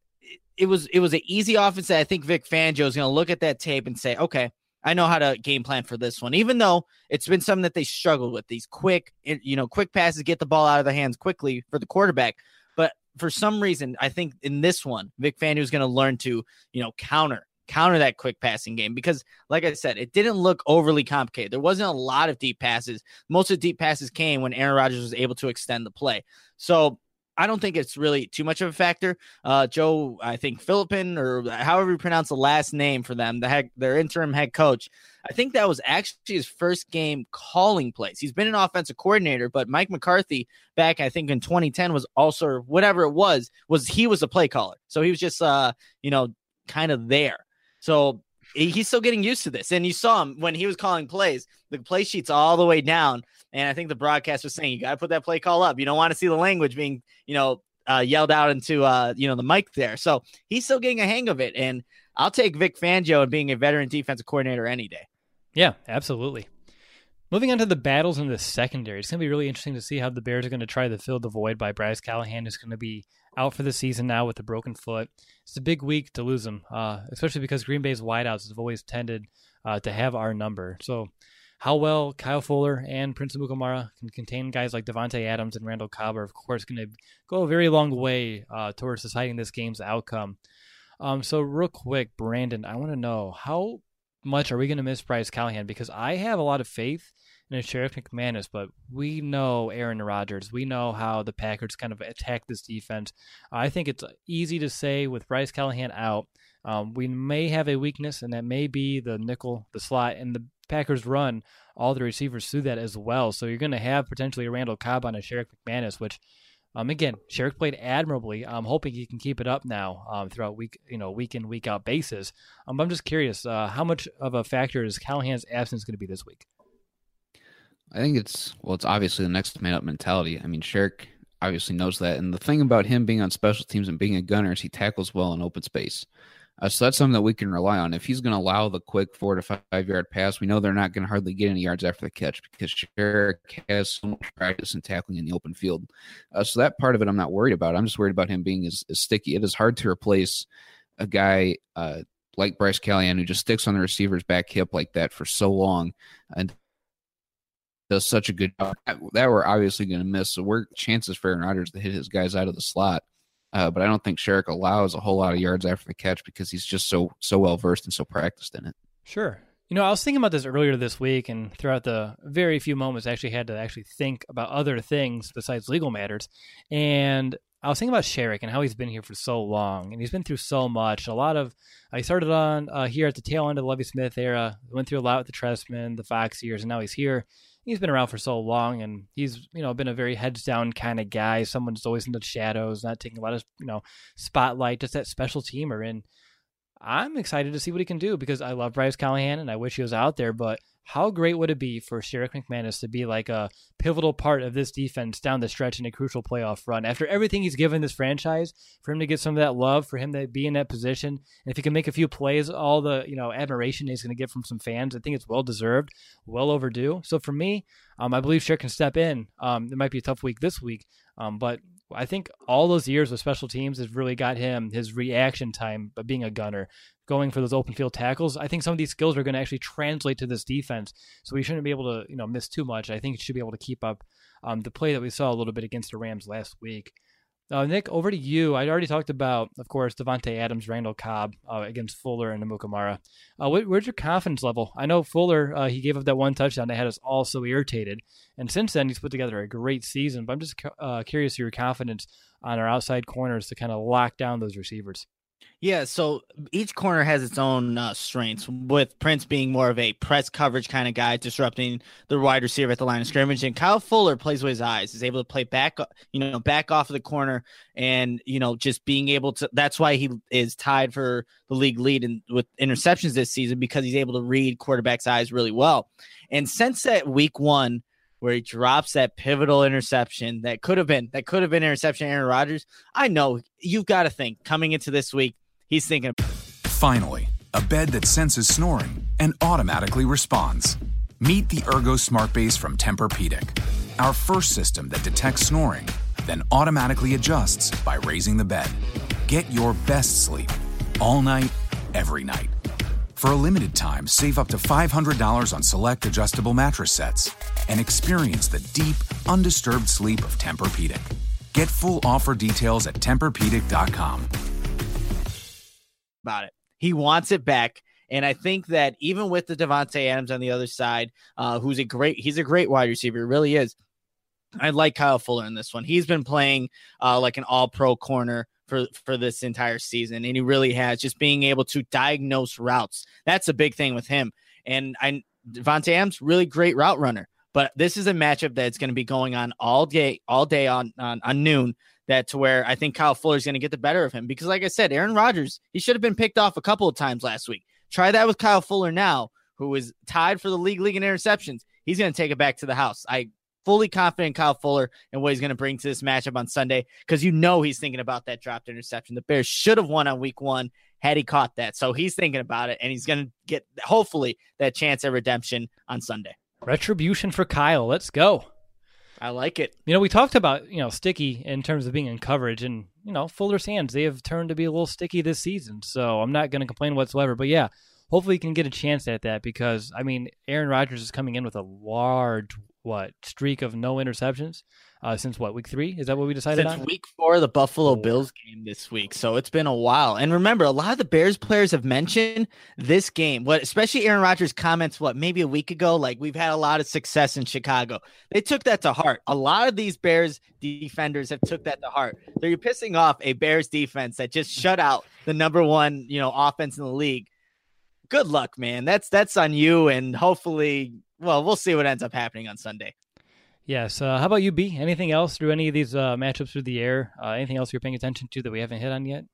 It was, it was an easy offense that I think Vic Fangio is going to look at that tape and say, okay, I know how to game plan for this one, even though it's been something that they struggled with, these quick, you know, quick passes, get the ball out of their hands quickly for the quarterback. But for some reason, I think in this one, Vic Fangio is going to learn to, you know, counter, counter that quick passing game, because like I said, it didn't look overly complicated. There wasn't a lot of deep passes. Most of the deep passes came when Aaron Rodgers was able to extend the play. So I don't think it's really too much of a factor. Uh, Joe, I think Philippin, or however you pronounce the last name for them, the head, their interim head coach, I think that was actually his first game calling plays. He's been an offensive coordinator, but Mike McCarthy back, I think in twenty ten was also, whatever it was, was he was a play caller. So he was just, uh, you know, kind of there. So he's still getting used to this. And you saw him when he was calling plays, the play sheet's all the way down. And I think the broadcast was saying, you got to put that play call up. You don't want to see the language being, you know, uh, yelled out into, uh, you know, the mic there. So he's still getting a hang of it. And I'll take Vic Fangio and being a veteran defensive coordinator any day. Yeah, absolutely. Moving on to the battles in the secondary, it's going to be really interesting to see how the Bears are going to try to fill the void by Bryce Callahan, who's going to be out for the season now with a broken foot. It's a big week to lose him, uh, especially because Green Bay's wideouts have always tended uh, to have our number. So how well Kyle Fuller and Prince Amukamara can contain guys like Devontae Adams and Randall Cobb are, of course, going to go a very long way uh, towards deciding this game's outcome. Um, so real quick, Brandon, I want to know, how much are we going to miss Bryce Callahan? Because I have a lot of faith in Sheriff McManus, but we know Aaron Rodgers. We know how the Packers kind of attack this defense. I think it's easy to say with Bryce Callahan out, um, we may have a weakness, and that may be the nickel, the slot, and the Packers run all the receivers through that as well. So you're going to have potentially a Randall Cobb on a Sheriff McManus, which, um, again, Sheriff played admirably. I'm hoping he can keep it up now um, throughout week, you know, week in, week out basis. Um, I'm just curious, uh, how much of a factor is Callahan's absence going to be this week? I think it's, well, it's obviously the next man up mentality. I mean, Sherrick obviously knows that. And the thing about him being on special teams and being a gunner is he tackles well in open space. Uh, so that's something that we can rely on. If he's going to allow the quick four to five yard pass, we know they're not going to hardly get any yards after the catch because Sherrick has so much practice in tackling in the open field. Uh, so that part of it I'm not worried about. I'm just worried about him being as, as sticky. It is hard to replace a guy uh, like Bryce Callahan who just sticks on the receiver's back hip like that for so long and does such a good job that we're obviously going to miss. So we're chances for Aaron Rodgers to hit his guys out of the slot. Uh, but I don't think Sherrick allows a whole lot of yards after the catch because he's just so so well versed and so practiced in it. Sure. You know, I was thinking about this earlier this week, and throughout the very few moments, I actually had to actually think about other things besides legal matters. And I was thinking about Sherrick and how he's been here for so long, and he's been through so much. A lot of, I started on uh, here at the tail end of the Lovie Smith era, went through a lot with the Trestman, the Fox years, and now he's here. He's been around for so long, and he's, you know, been a very heads down kind of guy. Someone who's always in the shadows, not taking a lot of, you know, spotlight, just that special teamer. And I'm excited to see what he can do because I love Bryce Callahan and I wish he was out there, but how great would it be for Sherrick McManus to be like a pivotal part of this defense down the stretch in a crucial playoff run? After everything he's given this franchise, for him to get some of that love, for him to be in that position, and if he can make a few plays, all the you know admiration he's going to get from some fans, I think it's well deserved, well overdue. So for me, um, I believe Sherrick can step in. Um, it might be a tough week this week, um, but I think all those years with special teams has really got him his reaction time by being a gunner, going for those open field tackles. I think some of these skills are going to actually translate to this defense, so we shouldn't be able to you know miss too much. I think he should be able to keep up um, the play that we saw a little bit against the Rams last week. Uh, Nick, over to you. I already talked about, of course, Davante Adams, Randall Cobb uh, against Fuller and Amukamara. Uh, wh- where's your confidence level? I know Fuller, uh, he gave up that one touchdown that had us all so irritated, and since then he's put together a great season, but I'm just uh, curious your confidence on our outside corners to kind of lock down those receivers. Yeah, so each corner has its own uh, strengths, with Prince being more of a press coverage kind of guy, disrupting the wide receiver at the line of scrimmage. And Kyle Fuller plays with his eyes, is able to play back, you know, back off of the corner, and, you know, just being able to, that's why he is tied for the league lead in, with interceptions this season, because he's able to read quarterback's eyes really well. And since that week one, where he drops that pivotal interception that could have been, that could have been interception Aaron Rodgers, I know you've got to think coming into this week, he's thinking. Finally, a bed that senses snoring and automatically responds. Meet the Ergo Smart Base from Tempur-Pedic, our first system that detects snoring, then automatically adjusts by raising the bed. Get your best sleep all night, every night. For a limited time, save up to five hundred dollars on select adjustable mattress sets and experience the deep, undisturbed sleep of Tempur-Pedic. Get full offer details at Tempur Pedic dot com. About it. He wants it back. And I think that even with the Davante Adams on the other side, uh, who's a great, he's a great wide receiver, he really is. I like Kyle Fuller in this one. He's been playing uh, like an all-pro corner for, for this entire season, and he really has, just being able to diagnose routes. That's a big thing with him. And I, Davante Adams, really great route runner. But this is a matchup that's going to be going on all day, all day on, on, on noon, that to where I think Kyle Fuller is going to get the better of him. Because like I said, Aaron Rodgers, he should have been picked off a couple of times last week. Try that with Kyle Fuller now, who is tied for the league league in interceptions. He's going to take it back to the house. I fully confident in Kyle Fuller and what he's going to bring to this matchup on Sunday, because you know he's thinking about that dropped interception. The Bears should have won on week one had he caught that. So he's thinking about it, and he's going to get, hopefully, that chance at redemption on Sunday. Retribution for Kyle. Let's go. I like it. You know, we talked about, you know, sticky in terms of being in coverage, and, you know, Fuller's hands, they have turned to be a little sticky this season. So I'm not going to complain whatsoever. But yeah, hopefully he can get a chance at that, because, I mean, Aaron Rodgers is coming in with a large, what, streak of no interceptions uh, since what, week three? Is that what we decided Since on? week four of the Buffalo Bills game this week. So it's been a while. And remember, a lot of the Bears players have mentioned this game, what, especially Aaron Rodgers' comments, what, maybe a week ago, like, we've had a lot of success in Chicago. They took that to heart. A lot of these Bears defenders have took that to heart. They're pissing off a Bears defense that just shut out the number one, you know, offense in the league. Good luck, man. That's, that's on you. And hopefully, well, we'll see what ends up happening on Sunday. Yes. Uh, how about you, B? Anything else through any of these uh, matchups through the air? Uh, anything else you're paying attention to that we haven't hit on yet?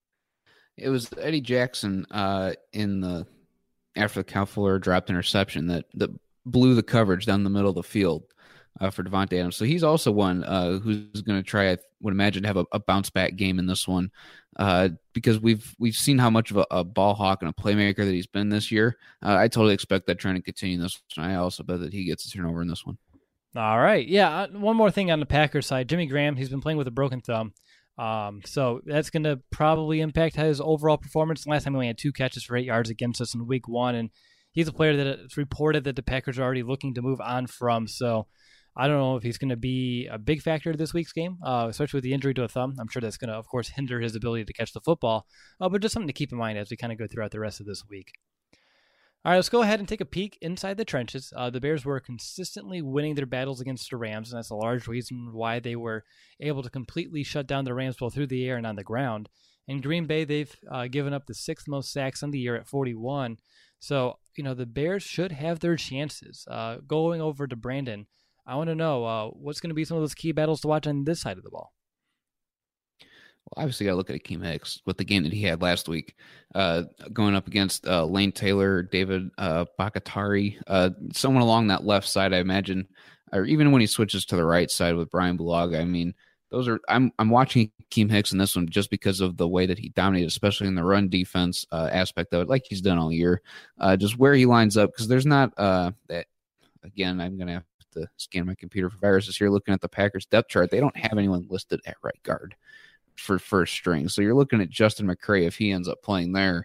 It was Eddie Jackson uh, in the after the Kyle Fuller dropped interception that that blew the coverage down the middle of the field uh, for Davante Adams. So he's also one uh, who's going to try, I would imagine, to have a, a bounce back game in this one uh, because we've we've seen how much of a, a ball hawk and a playmaker that he's been this year. Uh, I totally expect that trend to continue this one. I also bet that he gets a turnover in this one. All right. Yeah. One more thing on the Packers side. Jimmy Graham, he's been playing with a broken thumb. Um, so that's going to probably impact his overall performance. Last time he only had two catches for eight yards against us in week one. And he's a player that it's reported that the Packers are already looking to move on from. So I don't know if he's going to be a big factor this week's game, uh, especially with the injury to a thumb. I'm sure that's going to, of course, hinder his ability to catch the football. Uh, but just something to keep in mind as we kind of go throughout the rest of this week. All right, let's go ahead and take a peek inside the trenches. Uh, the Bears were consistently winning their battles against the Rams, and that's a large reason why they were able to completely shut down the Rams both through the air and on the ground. In Green Bay, they've uh, given up the sixth most sacks on the year at forty-one. So, you know, the Bears should have their chances. Uh, going over to Brandon, I want to know uh, what's going to be some of those key battles to watch on this side of the ball. Well, obviously, got to look at Akeem Hicks with the game that he had last week, uh, going up against uh, Lane Taylor, David uh, Bakatari, uh, someone along that left side, I imagine, or even when he switches to the right side with Brian Bulaga. I mean, those are I'm I'm watching Akeem Hicks in this one just because of the way that he dominated, especially in the run defense uh, aspect of it, like he's done all year. Uh, just where he lines up, because there's not uh, that. Again, I'm gonna have to scan my computer for viruses here. Looking at the Packers depth chart, they don't have anyone listed at right guard for first string. So you're looking at Justin McCray if he ends up playing there.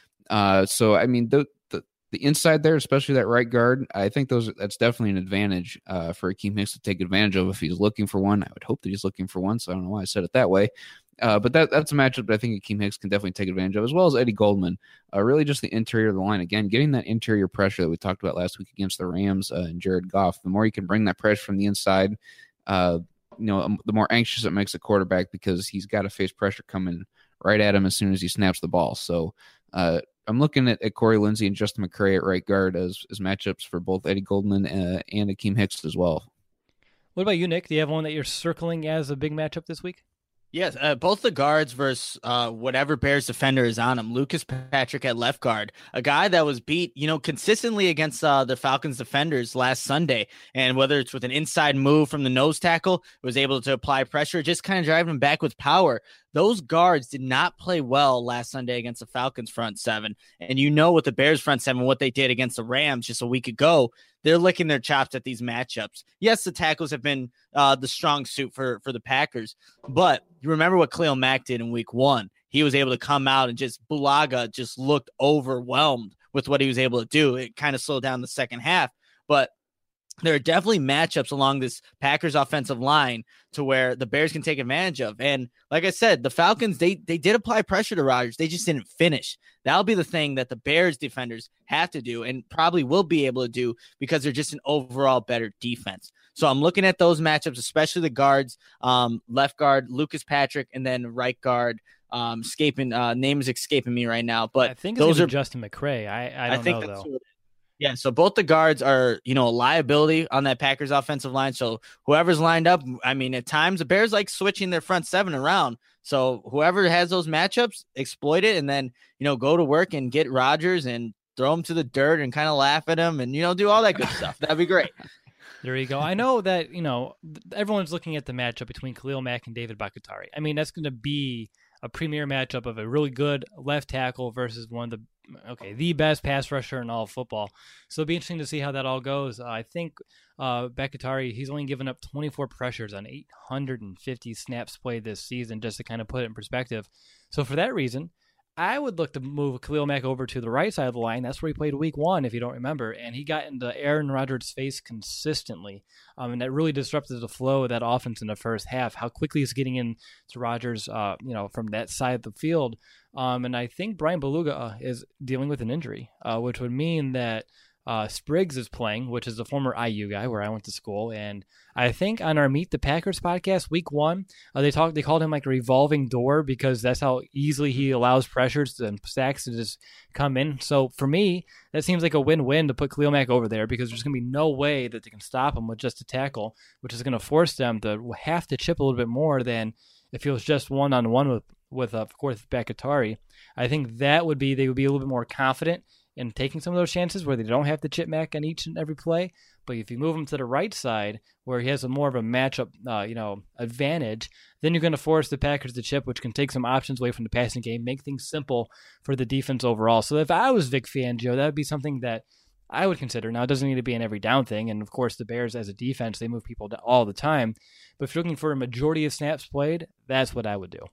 Uh, so I mean the, the the inside there, especially that right guard, I think those that's definitely an advantage uh, for Akeem Hicks to take advantage of if he's looking for one. I would hope that he's looking for one. So I don't know why I said it that way. Uh, but that that's a matchup that I think Akeem Hicks can definitely take advantage of, as well as Eddie Goldman. Uh, really just the interior of the line. Again, getting that interior pressure that we talked about last week against the Rams uh, and Jared Goff. The more you can bring that pressure from the inside, uh, you know, um, the more anxious it makes a quarterback because he's got to face pressure coming right at him as soon as he snaps the ball. So uh, I'm looking at, at Corey Lindsey and Justin McCray at right guard as, as matchups for both Eddie Goldman uh, and Akeem Hicks as well. What about you, Nick? Do you have one that you're circling as a big matchup this week? Yes, uh, both the guards versus uh, whatever Bears defender is on him. Lucas Patrick at left guard, a guy that was beat, you know, consistently against uh, the Falcons defenders last Sunday. And whether it's with an inside move from the nose tackle, was able to apply pressure, just kind of driving him back with power. Those guards did not play well last Sunday against the Falcons front seven. And you know, with the Bears front seven, what they did against the Rams just a week ago, they're licking their chops at these matchups. Yes, the tackles have been uh, the strong suit for, for the Packers, but you remember what Khalil Mack did in week one. He was able to come out and just Bulaga just looked overwhelmed with what he was able to do. It kind of slowed down the second half, but there are definitely matchups along this Packers offensive line to where the Bears can take advantage of. And like I said, the Falcons, they they did apply pressure to Rodgers. They just didn't finish. That'll be the thing that the Bears defenders have to do and probably will be able to do because they're just an overall better defense. So I'm looking at those matchups, especially the guards, um, left guard, Lucas Patrick, and then right guard. Um, escaping uh, name is escaping me right now, but I think those are Justin McCray. I, I don't I think know that's though. who it is. Yeah, so both the guards are, you know, a liability on that Packers offensive line. So whoever's lined up, I mean, at times the Bears like switching their front seven around. So whoever has those matchups, exploit it, and then, you know, go to work and get Rodgers and throw him to the dirt and kind of laugh at him and, you know, do all that good stuff. That'd be great. There you go. I know that, you know, everyone's looking at the matchup between Khalil Mack and David Bakatari. I mean, that's going to be a premier matchup of a really good left tackle versus one of the okay, the best pass rusher in all of football. So it'll be interesting to see how that all goes. Uh, I think uh, Bakatari, he's only given up twenty-four pressures on eight hundred fifty snaps played this season, just to kind of put it in perspective. So for that reason, I would look to move Khalil Mack over to the right side of the line. That's where he played week one, if you don't remember. And he got into Aaron Rodgers' face consistently. Um, and that really disrupted the flow of that offense in the first half, how quickly he's getting in to Rodgers, uh, you know, from that side of the field. Um, and I think Brian Bulaga is dealing with an injury, uh, which would mean that uh, Spriggs is playing, which is a former I U guy where I went to school. And I think on our Meet the Packers podcast, week one, uh, they talked, they called him like a revolving door because that's how easily he allows pressures and sacks to just come in. So for me, that seems like a win-win to put Khalil Mack over there because there's going to be no way that they can stop him with just a tackle, which is going to force them to have to chip a little bit more than if it was just one-on-one with, with uh, of course, Bakatari. I think that would be, they would be a little bit more confident in taking some of those chances where they don't have to chip Mack on each and every play. But if you move him to the right side where he has a more of a matchup, uh, you know, advantage, then you're going to force the Packers to chip, which can take some options away from the passing game, make things simple for the defense overall. So if I was Vic Fangio, that would be something that I would consider. Now, it doesn't need to be an every down thing. And of course, the Bears as a defense, they move people all the time. But if you're looking for a majority of snaps played, that's what I would do.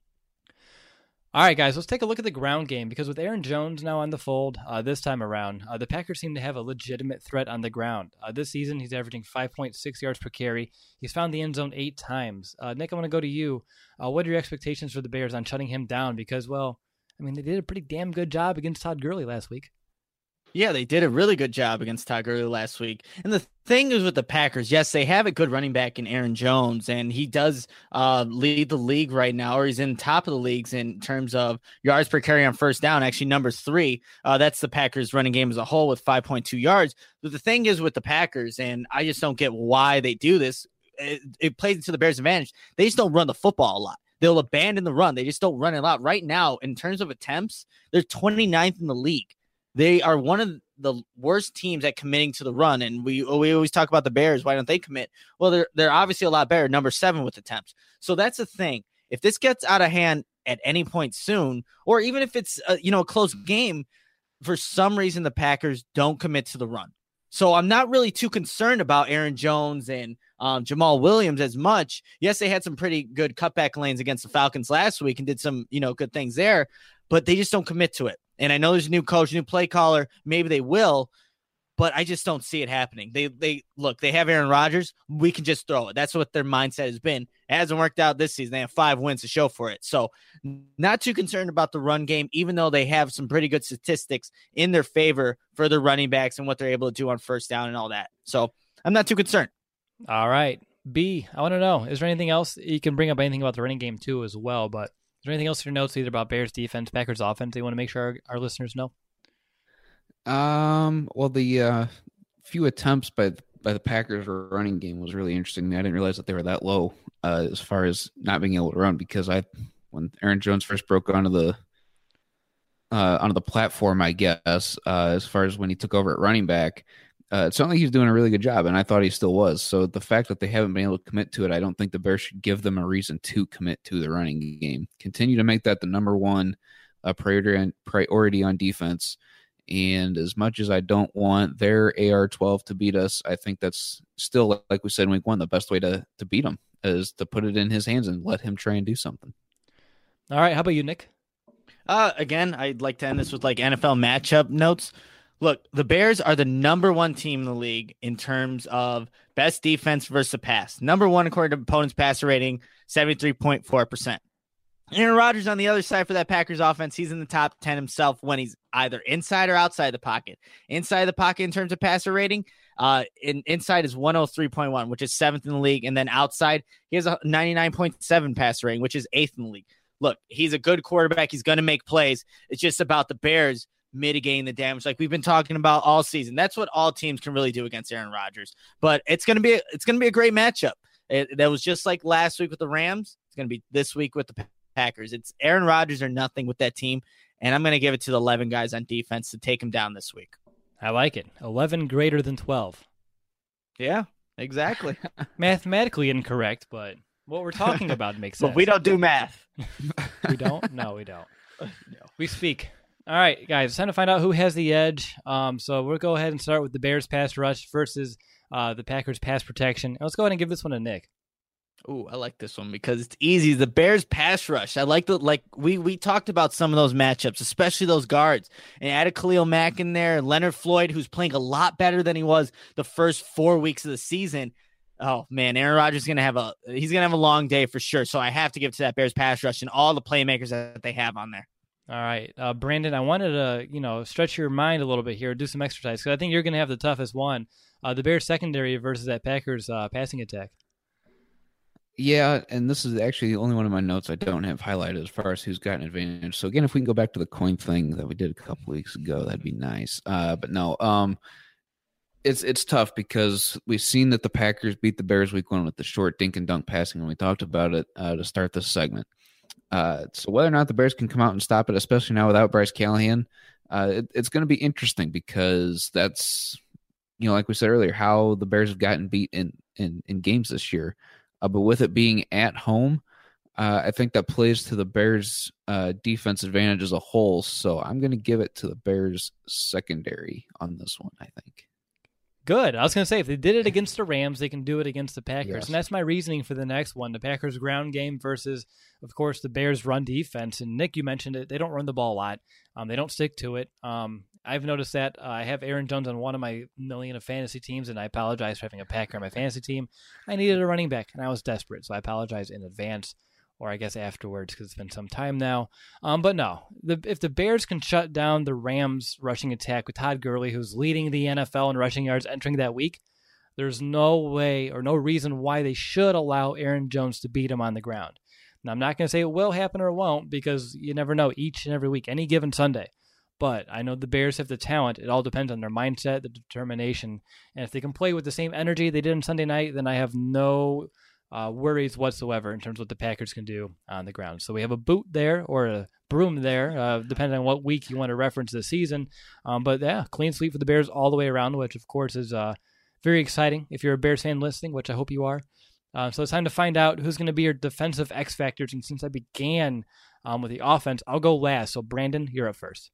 All right, guys, let's take a look at the ground game because with Aaron Jones now on the fold uh, this time around, uh, the Packers seem to have a legitimate threat on the ground. Uh, this season, he's averaging five point six yards per carry. He's found the end zone eight times. Uh, Nick, I want to go to you. Uh, what are your expectations for the Bears on shutting him down? Because, well, I mean, they did a pretty damn good job against Todd Gurley last week. Yeah, they did a really good job against Todd Gurley last week. And the thing is with the Packers, yes, they have a good running back in Aaron Jones, and he does uh, lead the league right now, or he's in top of the leagues in terms of yards per carry on first down, actually number three. Uh, that's the Packers running game as a whole with five point two yards. But the thing is with the Packers, and I just don't get why they do this, it, it plays into the Bears' advantage. They just don't run the football a lot. they'll abandon the run. They just don't run it out. Right now, in terms of attempts, they're twenty-ninth in the league. They are one of the worst teams at committing to the run. And we we always talk about the Bears. Why don't they commit? Well, they're they're obviously a lot better, number seven with attempts. So that's the thing. If this gets out of hand at any point soon, or even if it's a, you know, a close game, for some reason the Packers don't commit to the run. So I'm not really too concerned about Aaron Jones and um, Jamal Williams as much. Yes, they had some pretty good cutback lanes against the Falcons last week and did some, you know, good things there, but they just don't commit to it. And I know there's a new coach, new play caller. Maybe they will, but I just don't see it happening. They, they look, they have Aaron Rodgers. We can just throw it. That's what their mindset has been. It hasn't worked out this season. They have five wins to show for it. So not too concerned about the run game, even though they have some pretty good statistics in their favor for their running backs and what they're able to do on first down and all that. So I'm not too concerned. All right. B, I want to know, is there anything else? You can bring up anything about the running game too as well, but is there anything else in your notes either about Bears defense, Packers offense that you want to make sure our, our listeners know? Um, well, the uh, few attempts by the, by the Packers running game was really interesting. I didn't realize that they were that low uh, as far as not being able to run, because I, when Aaron Jones first broke onto the uh, onto the platform, I guess, uh, as far as when he took over at running back, uh, it sounded like he was doing a really good job, and I thought he still was. So the fact that they haven't been able to commit to it, I don't think the Bears should give them a reason to commit to the running game. Continue to make that the number one uh, priority on, priority on defense. And as much as I don't want their A R twelve to beat us, I think that's still, like we said in week one, the best way to, to beat him is to put it in his hands and let him try and do something. All right. How about you, Nick? Uh, again, I'd like to end this with like N F L matchup notes. Look, the Bears are the number one team in the league in terms of best defense versus the pass. Number one according to opponents' passer rating, seventy-three point four percent. Aaron Rodgers on the other side for that Packers offense, he's in the top ten himself when he's either inside or outside the pocket. Inside the pocket in terms of passer rating, uh, in, inside is one oh three point one, which is seventh in the league. And then outside, he has a ninety-nine point seven passer rating, which is eighth in the league. Look, he's a good quarterback. He's going to make plays. It's just about the Bears mitigating the damage like we've been talking about all season. That's what all teams can really do against Aaron Rodgers. But it's going to be it's going to be a great matchup. It, that was just like last week with the Rams. It's going to be this week with the Packers. It's Aaron Rodgers or nothing with that team, and I'm going to give it to the eleven guys on defense to take him down this week. I like it. eleven greater than twelve. Yeah, exactly. Mathematically incorrect, but what we're talking about makes sense. But we don't do math. We don't? No, we don't. No. We speak. All right, guys, it's time to find out who has the edge. Um, so we'll go ahead and start with the Bears pass rush versus uh, the Packers pass protection. And let's go ahead and give this one to Nick. Ooh, I like this one because it's easy. The Bears pass rush. I like the like we we talked about some of those matchups, especially those guards. And added Khalil Mack in there, Leonard Floyd, who's playing a lot better than he was the first four weeks of the season. Oh man, Aaron Rodgers is gonna have a he's gonna have a long day for sure. So I have to give it to that Bears pass rush and all the playmakers that they have on there. All right, uh, Brandon, I wanted to you know stretch your mind a little bit here, do some exercise because I think you're gonna have the toughest one. Uh, the Bears secondary versus that Packers uh, passing attack. Yeah, and this is actually the only one of my notes I don't have highlighted as far as who's got an advantage. So again, if we can go back to the coin thing that we did a couple weeks ago, that'd be nice. Uh, but no, um, it's it's tough because we've seen that the Packers beat the Bears week one with the short dink and dunk passing, and we talked about it uh, to start this segment. Uh, so whether or not the Bears can come out and stop it, especially now without Bryce Callahan, uh, it, it's going to be interesting because that's, you know, like we said earlier, how the Bears have gotten beat in in, in games this year. Uh, but with it being at home, uh, I think that plays to the Bears' uh, defense advantage as a whole. So I'm going to give it to the Bears' secondary on this one, I think. Good. I was going to say, if they did it against the Rams, they can do it against the Packers. Yes. And that's my reasoning for the next one, the Packers ground game versus, of course, the Bears run defense. And Nick, you mentioned it. They don't run the ball a lot. Um, they don't stick to it. Um, I've noticed that. Uh, I have Aaron Jones on one of my million of fantasy teams, and I apologize for having a Packer on my fantasy team. I needed a running back, and I was desperate, so I apologize in advance, or I guess afterwards because it's been some time now. Um, but no, the, if the Bears can shut down the Rams rushing attack with Todd Gurley, who's leading the N F L in rushing yards entering that week, there's no way or no reason why they should allow Aaron Jones to beat him on the ground. Now, I'm not going to say it will happen or it won't because you never know each and every week, any given Sunday. But I know the Bears have the talent. It all depends on their mindset, the determination. And if they can play with the same energy they did on Sunday night, then I have no uh, worries whatsoever in terms of what the Packers can do on the ground. So we have a boot there or a broom there, uh, depending on what week you want to reference the season. Um, but yeah, clean sweep for the Bears all the way around, which of course is uh, very exciting if you're a Bears fan listening, which I hope you are. Uh, so it's time to find out who's going to be your defensive X factors. And since I began um, with the offense, I'll go last. So Brandon, you're up first.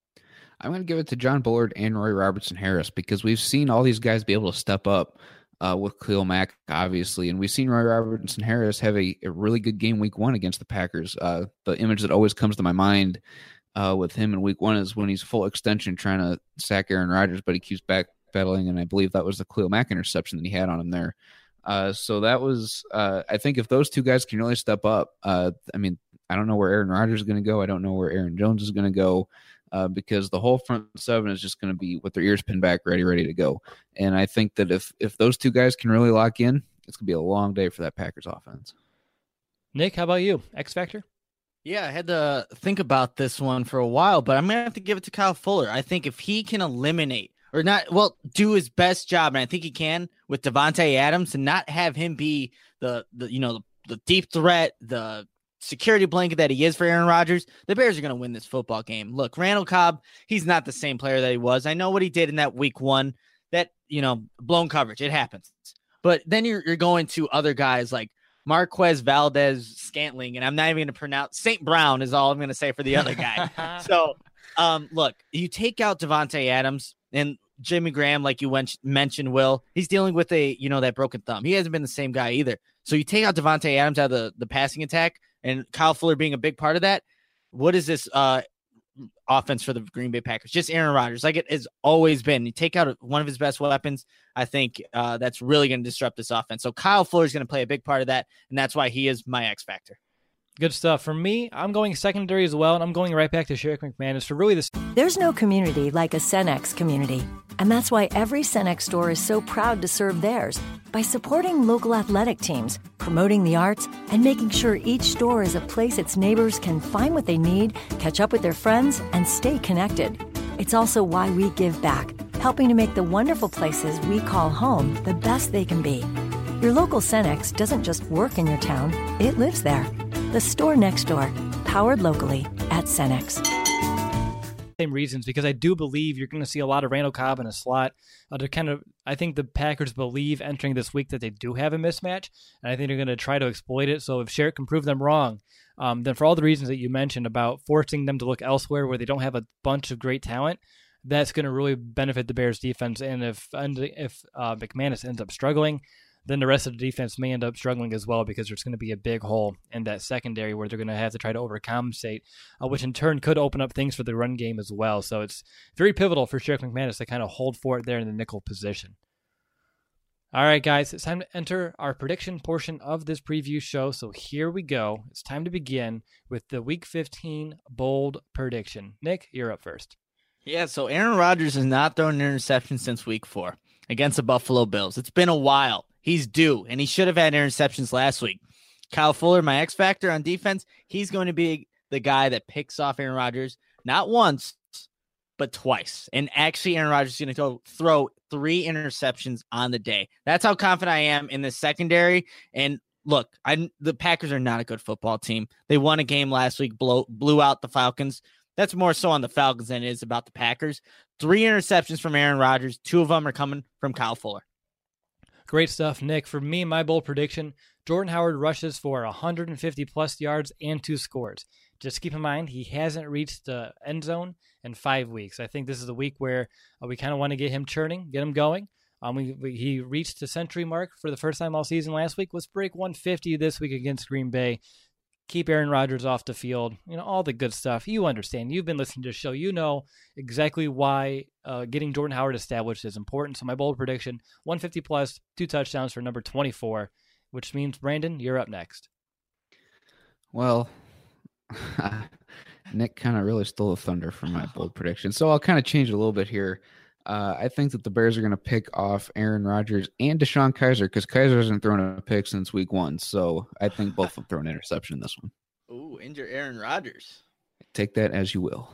I'm going to give it to John Bullard and Roy Robertson Harris because we've seen all these guys be able to step up uh, with Khalil Mack, obviously. And we've seen Roy Robertson Harris have a, a really good game week one against the Packers. Uh, the image that always comes to my mind uh, with him in week one is when he's full extension trying to sack Aaron Rodgers, but he keeps backpedaling. And I believe that was the Khalil Mack interception that he had on him there. Uh, so that was, uh, I think if those two guys can really step up, uh, I mean, I don't know where Aaron Rodgers is going to go. I don't know where Aaron Jones is going to go. Uh, because the whole front seven is just going to be with their ears pinned back, ready, ready to go. And I think that if if those two guys can really lock in, it's going to be a long day for that Packers offense. Nick, how about you? X Factor? Yeah, I had to think about this one for a while, but I'm going to have to give it to Kyle Fuller. I think if he can eliminate or not, well, do his best job, and I think he can with Davante Adams, and not have him be the, the you know, the, the deep threat, the security blanket that he is for Aaron Rodgers, the Bears are going to win this football game. Look, Randall Cobb, he's not the same player that he was. I know what he did in that week one, that, you know, blown coverage. It happens. But then you're, you're going to other guys like Marquez Valdez-Scantling, and I'm not even going to pronounce Saint Brown is all I'm going to say for the other guy. So, um, look, you take out Davante Adams and Jimmy Graham, like you went, mentioned, Will, he's dealing with a, you know, that broken thumb. He hasn't been the same guy either. So you take out Davante Adams out of the, the passing attack, and Kyle Fuller being a big part of that. What is this uh, offense for the Green Bay Packers? Just Aaron Rodgers, like it has always been. You take out one of his best weapons, I think uh, that's really going to disrupt this offense. So Kyle Fuller is going to play a big part of that, and that's why he is my X factor. Good stuff. For me, I'm going secondary as well, and I'm going right back to Sherrick McManus for really this. There's no community like a Cenex community, and that's why every Cenex store is so proud to serve theirs by supporting local athletic teams, promoting the arts, and making sure each store is a place its neighbors can find what they need, catch up with their friends, and stay connected. It's also why we give back, helping to make the wonderful places we call home the best they can be. Your local Cenex doesn't just work in your town, it lives there. The store next door, powered locally at Cenex. Same reasons, because I do believe you're going to see a lot of Randall Cobb in a slot. Uh, to kind of, I think the Packers believe entering this week that they do have a mismatch, and I think they're going to try to exploit it. So if Sherrick can prove them wrong, um, then for all the reasons that you mentioned about forcing them to look elsewhere where they don't have a bunch of great talent, that's going to really benefit the Bears defense. And if and if uh, McManus ends up struggling, then the rest of the defense may end up struggling as well, because there's going to be a big hole in that secondary where they're going to have to try to overcompensate, uh, which in turn could open up things for the run game as well. So it's very pivotal for Sherrick McManus to kind of hold for it there in the nickel position. All right, guys, it's time to enter our prediction portion of this preview show. So here we go. It's time to begin with the Week fifteen bold prediction. Nick, you're up first. Yeah, so Aaron Rodgers has not thrown an interception since week four against the Buffalo Bills. It's been a while. He's due, and he should have had interceptions last week. Kyle Fuller, my X factor on defense, he's going to be the guy that picks off Aaron Rodgers, not once, but twice. And actually, Aaron Rodgers is going to go throw three interceptions on the day. That's how confident I am in the secondary. And look, I the Packers are not a good football team. They won a game last week, blow, blew out the Falcons. That's more so on the Falcons than it is about the Packers. Three interceptions from Aaron Rodgers. Two of them are coming from Kyle Fuller. Great stuff, Nick. For me, my bold prediction, Jordan Howard rushes for one hundred fifty plus yards and two scores. Just keep in mind, he hasn't reached the end zone in five weeks. I think this is the week where uh, we kind of want to get him churning, get him going. Um, we, we, he reached the century mark for the first time all season last week. Let's break one fifty this week against Green Bay. Keep Aaron Rodgers off the field, you know, all the good stuff. You understand. You've been listening to the show. You know exactly why uh, getting Jordan Howard established is important. So my bold prediction, one fifty plus, two touchdowns for number twenty-four, which means, Brandon, you're up next. Well, Nick kind of really stole the thunder from my bold prediction. So I'll kind of change it a little bit here. Uh, I think that the Bears are going to pick off Aaron Rodgers and DeShone Kizer, because Kizer hasn't thrown a pick since week one. So I think both will throw an interception in this one. Ooh, injure Aaron Rodgers. Take that as you will.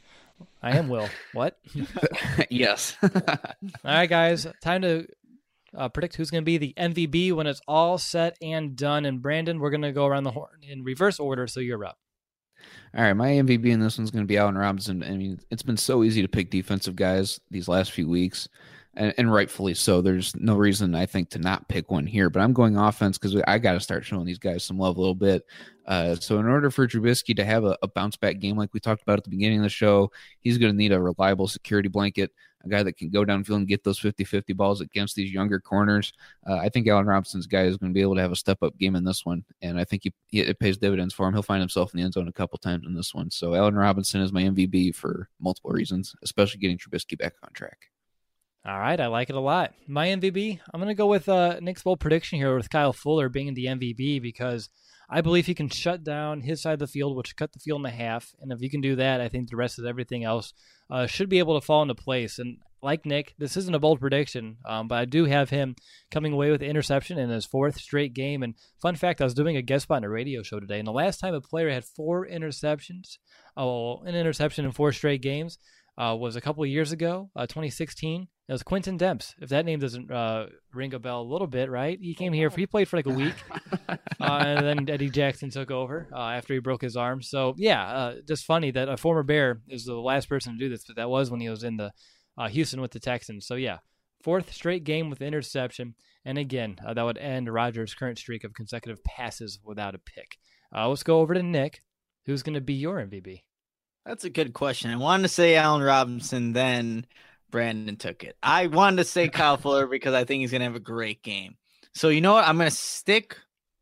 I am Will. What? Yes. All right, guys. Time to uh, predict who's going to be the M V B when it's all said and done. And Brandon, we're going to go around the horn in reverse order, so you're up. All right, my M V B in this one's going to be Allen Robinson. I mean, it's been so easy to pick defensive guys these last few weeks, and, and rightfully so. There's no reason, I think, to not pick one here. But I'm going offense because I got to start showing these guys some love a little bit. Uh, so in order for Trubisky to have a, a bounce-back game like we talked about at the beginning of the show, he's going to need a reliable security blanket, a guy that can go downfield and get those fifty-fifty balls against these younger corners. Uh, I think Allen Robinson's guy is going to be able to have a step-up game in this one, and I think he, he, it pays dividends for him. He'll find himself in the end zone a couple times in this one. So Allen Robinson is my M V B for multiple reasons, especially getting Trubisky back on track. All right, I like it a lot. My M V B, I'm going to go with uh, Nick's bold prediction here with Kyle Fuller being the M V B because I believe he can shut down his side of the field, which cut the field in half. And if you can do that, I think the rest of everything else uh, should be able to fall into place. And like Nick, this isn't a bold prediction, um, but I do have him coming away with an interception in his fourth straight game. And fun fact, I was doing a guest spot on a radio show today, and the last time a player had four interceptions, oh, an interception in four straight games, uh, was a couple of years ago, uh, twenty sixteen. It was Quentin Demps. If that name doesn't uh, ring a bell a little bit, right? He came here, for, he played for like a week, uh, and then Eddie Jackson took over uh, after he broke his arm. So, yeah, uh, just funny that a former Bear is the last person to do this, but that was when he was in the uh, Houston with the Texans. So, yeah, fourth straight game with interception. And again, uh, that would end Rodgers' current streak of consecutive passes without a pick. Uh, let's go over to Nick. Who's going to be your M V B? That's a good question. I wanted to say Allen Robinson, then Brandon took it. I wanted to say Kyle Fuller because I think he's going to have a great game. So you know what? I'm going to stick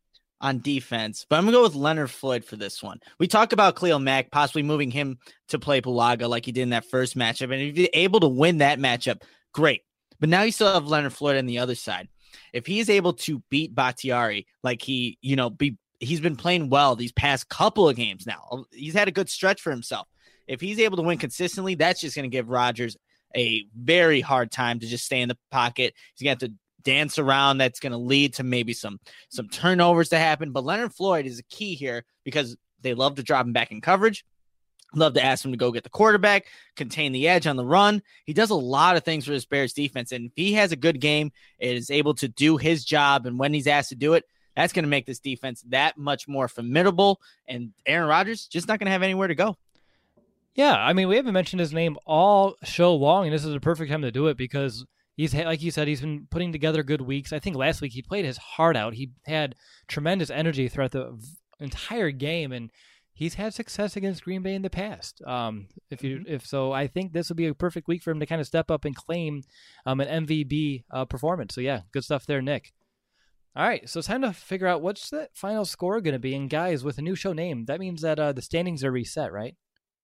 on defense, but I'm going to go with Leonard Floyd for this one. We talked about Khalil Mack possibly moving him to play Bulaga like he did in that first matchup. And if you're able to win that matchup, great. But now you still have Leonard Floyd on the other side. If he's able to beat Bakhtiari like he, you know, be he's been playing well these past couple of games now. He's had a good stretch for himself. If he's able to win consistently, that's just going to give Rodgers a very hard time to just stay in the pocket. He's going to have to dance around. That's going to lead to maybe some some turnovers to happen. But Leonard Floyd is a key here because they love to drop him back in coverage. Love to ask him to go get the quarterback, contain the edge on the run. He does a lot of things for this Bears defense. And if he has a good game, is able to do his job, and when he's asked to do it, that's going to make this defense that much more formidable. And Aaron Rodgers just not going to have anywhere to go. Yeah, I mean, we haven't mentioned his name all show long, and this is a perfect time to do it because he's, like you said, he's been putting together good weeks. I think last week he played his heart out. He had tremendous energy throughout the entire game, and he's had success against Green Bay in the past. Um, if you, if so, I think this would be a perfect week for him to kind of step up and claim um, an M V B uh, performance. So yeah, good stuff there, Nick. All right, so it's time to figure out what's the final score going to be. And guys, with a new show name, that means that uh, the standings are reset, right?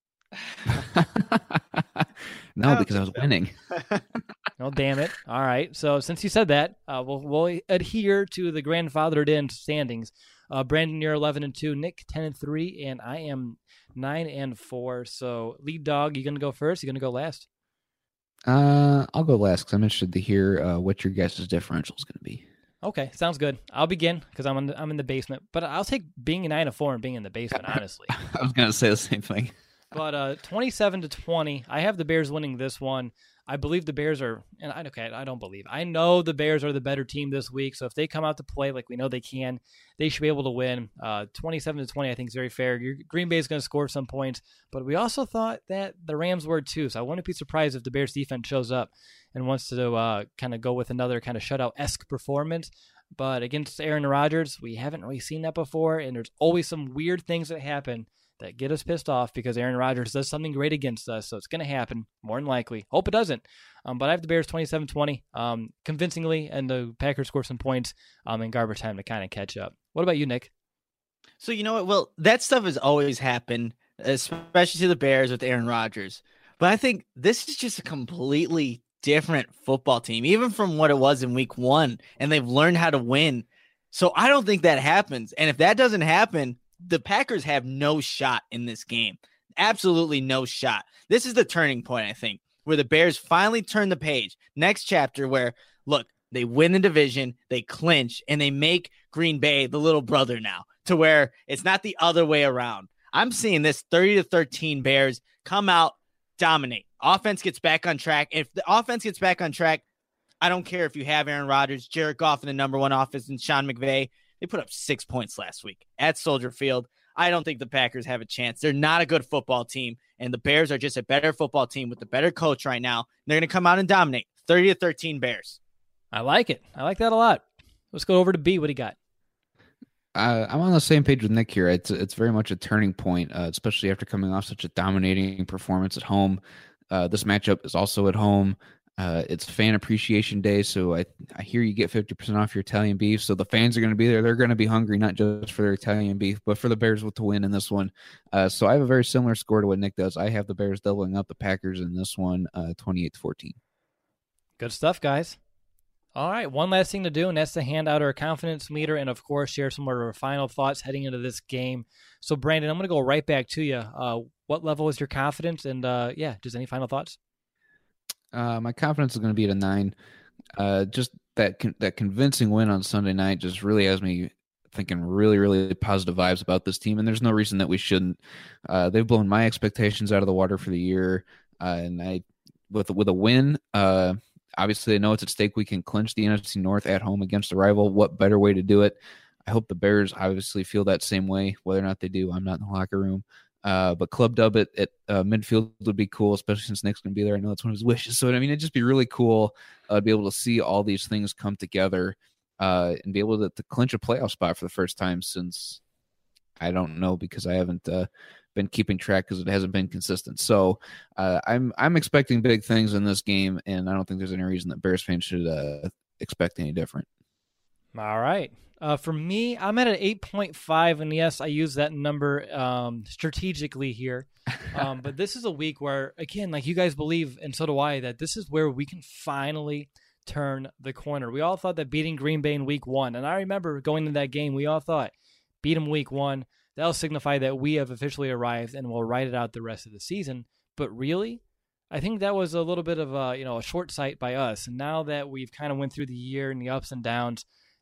No, because I was winning. Oh, damn it. All right. So since you said that, uh, we'll, we'll adhere to the grandfathered in standings. Uh, Brandon, you're eleven and two. Nick, ten and three. And I am nine and four. So lead dog, you going to go first? You going to go last? Uh, I'll go last because I'm interested to hear uh, what your guess's differential is going to be. Okay, sounds good. I'll begin because I'm in the, I'm in the basement. But I'll take being a nine and four and being in the basement, honestly. I was going to say the same thing. But uh, twenty-seven to twenty, I have the Bears winning this one. I believe the Bears are, and I okay, I don't believe. I know the Bears are the better team this week. So if they come out to play like we know they can, they should be able to win. Uh, twenty-seven to twenty, I think is very fair. Your Green Bay is going to score some points, but we also thought that the Rams were too. So I wouldn't be surprised if the Bears defense shows up and wants to uh, kind of go with another kind of shutout-esque performance. But against Aaron Rodgers, we haven't really seen that before, and there's always some weird things that happen that get us pissed off because Aaron Rodgers does something great against us. So it's going to happen, more than likely. Hope it doesn't. Um, but I have the Bears twenty-seven twenty um, convincingly, and the Packers score some points um, in garbage time to kind of catch up. What about you, Nick? So you know what? Well, that stuff has always happened, especially to the Bears with Aaron Rodgers. But I think this is just a completely different football team, even from what it was in week one, and they've learned how to win. So I don't think that happens. And if that doesn't happen, the Packers have no shot in this game. Absolutely no shot. This is the turning point, I think, where the Bears finally turn the page. Next chapter where, look, they win the division, they clinch, and they make Green Bay the little brother now to where it's not the other way around. I'm seeing this thirty to thirteen Bears come out, dominate. Offense gets back on track. If the offense gets back on track, I don't care if you have Aaron Rodgers, Jared Goff in the number one offense, and Sean McVay. They put up six points last week at Soldier Field. I don't think the Packers have a chance. They're not a good football team, and the Bears are just a better football team with a better coach right now. They're going to come out and dominate. thirty to thirteen Bears. I like it. I like that a lot. Let's go over to B. What do you got? Uh, I'm on the same page with Nick here. It's it's very much a turning point, uh, especially after coming off such a dominating performance at home. Uh, this matchup is also at home. Uh, it's Fan Appreciation Day, so I I hear you get fifty percent off your Italian beef. So the fans are going to be there. They're going to be hungry, not just for their Italian beef, but for the Bears to win in this one. Uh, so I have a very similar score to what Nick does. I have the Bears doubling up the Packers in this one, uh, twenty-eight to fourteen. Good stuff, guys. All right, one last thing to do, and that's to hand out our confidence meter and, of course, share some of our final thoughts heading into this game. So, Brandon, I'm going to go right back to you. Uh, what level is your confidence? And, uh, yeah, just any final thoughts? Uh, my confidence is going to be at a nine. Uh, just that con- that convincing win on Sunday night just really has me thinking really, really positive vibes about this team, and there's no reason that we shouldn't. Uh, they've blown my expectations out of the water for the year, uh, and I with with a win, uh, obviously I know it's at stake. We can clinch the N F C North at home against a rival. What better way to do it? I hope the Bears obviously feel that same way. Whether or not they do, I'm not in the locker room. Uh, but club dub at, at uh, midfield would be cool, especially since Nick's going to be there. I know that's one of his wishes. So, I mean, it'd just be really cool uh, to be able to see all these things come together uh, and be able to, to clinch a playoff spot for the first time since, I don't know, because I haven't uh, been keeping track because it hasn't been consistent. So uh, I'm I'm expecting big things in this game, and I don't think there's any reason that Bears fans should uh, expect any different. All right. Uh, for me, I'm at an eight point five, and yes, I use that number um, strategically here. Um, but this is a week where, again, like you guys believe, and so do I, that this is where we can finally turn the corner. We all thought that beating Green Bay in week one, and I remember going into that game, we all thought, beat them week one, that'll signify that we have officially arrived and we'll ride it out the rest of the season. But really, I think that was a little bit of a, you know, a short sight by us. And now that we've kind of went through the year and the ups and downs,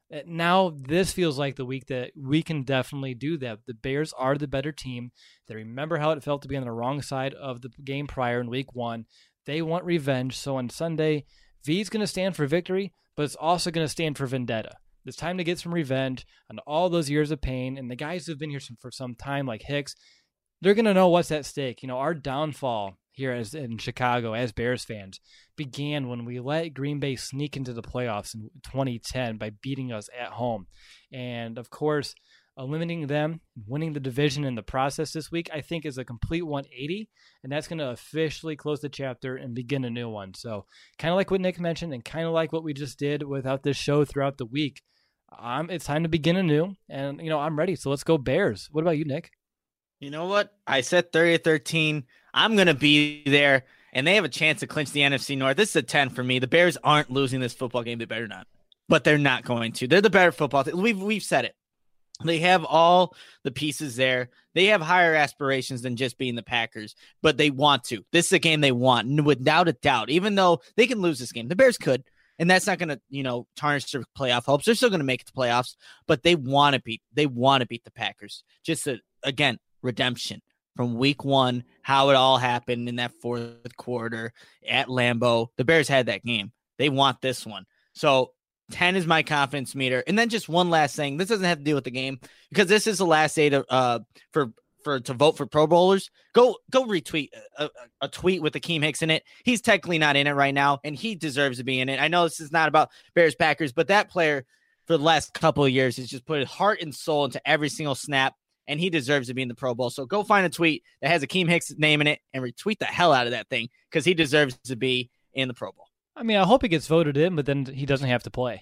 now this feels like the week that we can definitely do that. The Bears are the better team. They remember how it felt to be on the wrong side of the game prior in week one. They want revenge. So on Sunday, V is going to stand for victory, but it's also going to stand for vendetta. It's time to get some revenge on all those years of pain. And the guys who've been here for some time, like Hicks, they're going to know what's at stake. You know, our downfall here as in Chicago as Bears fans began when we let Green Bay sneak into the playoffs in twenty ten by beating us at home. And of course, eliminating them, winning the division in the process this week, I think is a complete one eighty, and that's going to officially close the chapter and begin a new one. So kind of like what Nick mentioned and kind of like what we just did without this show throughout the week, um, it's time to begin anew, and you know I'm ready. So let's go Bears. What about you, Nick? You know what? I said thirty to thirteen. I'm going to be there, and they have a chance to clinch the N F C North. This is a ten for me. The Bears aren't losing this football game. They better not. But they're not going to. They're the better football team. We've, we've said it. They have all the pieces there. They have higher aspirations than just being the Packers, but they want to. This is a game they want, without a doubt. Even though they can lose this game, the Bears could, and that's not going to, you know, tarnish their playoff hopes. They're still going to make it to playoffs, but they want to beat. They want to beat the Packers. Just a, again, redemption from week one, how it all happened in that fourth quarter at Lambeau. The Bears had that game. They want this one. So ten is my confidence meter. And then just one last thing. This doesn't have to do with the game because this is the last day to, uh, for, for, to vote for Pro Bowlers. Go, go retweet a, a, a tweet with Akeem Hicks in it. He's technically not in it right now, and he deserves to be in it. I know this is not about Bears Packers, but that player for the last couple of years has just put his heart and soul into every single snap, and he deserves to be in the Pro Bowl. So go find a tweet that has Akeem Hicks' name in it and retweet the hell out of that thing because he deserves to be in the Pro Bowl. I mean, I hope he gets voted in, but then he doesn't have to play.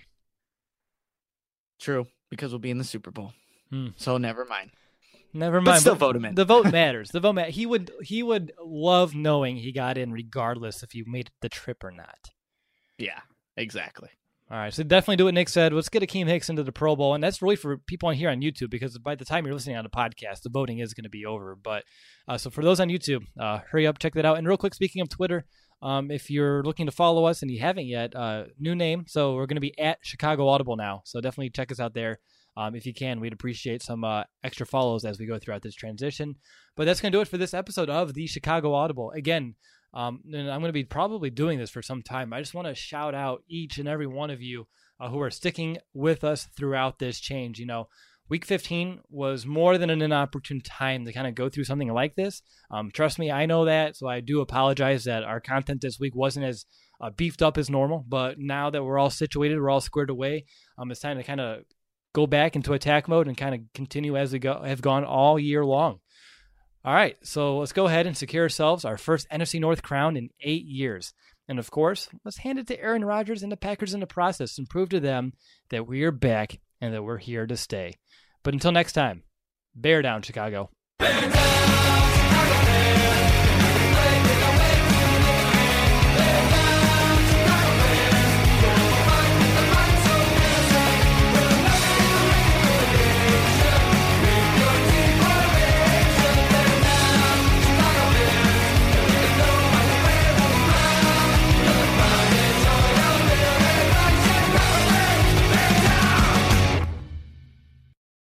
True, because we'll be in the Super Bowl. Hmm. So never mind. Never mind. But still but vote him in. The vote matters. The vote ma- He would he would love knowing he got in regardless if he made the trip or not. Yeah, exactly. All right, so definitely do what Nick said. Let's get Akeem Hicks into the Pro Bowl, and that's really for people on here on YouTube because by the time you're listening on the podcast, the voting is going to be over. But uh, so for those on YouTube, uh, hurry up, check that out. And real quick, speaking of Twitter, um, if you're looking to follow us and you haven't yet, uh, new name. So we're going to be at Chicago Audible now. So definitely check us out there. Um, if you can, we'd appreciate some uh, extra follows as we go throughout this transition. But that's going to do it for this episode of the Chicago Audible. Again, Um, and I'm going to be probably doing this for some time. I just want to shout out each and every one of you uh, who are sticking with us throughout this change. You know, Week fifteen was more than an inopportune time to kind of go through something like this. Um, trust me, I know that, so I do apologize that our content this week wasn't as uh, beefed up as normal. But now that we're all situated, we're all squared away, um, it's time to kind of go back into attack mode and kind of continue as we go have gone all year long. All right, so let's go ahead and secure ourselves our first N F C North crown in eight years. And of course, let's hand it to Aaron Rodgers and the Packers in the process and prove to them that we are back and that we're here to stay. But until next time, bear down, Chicago. Bear down!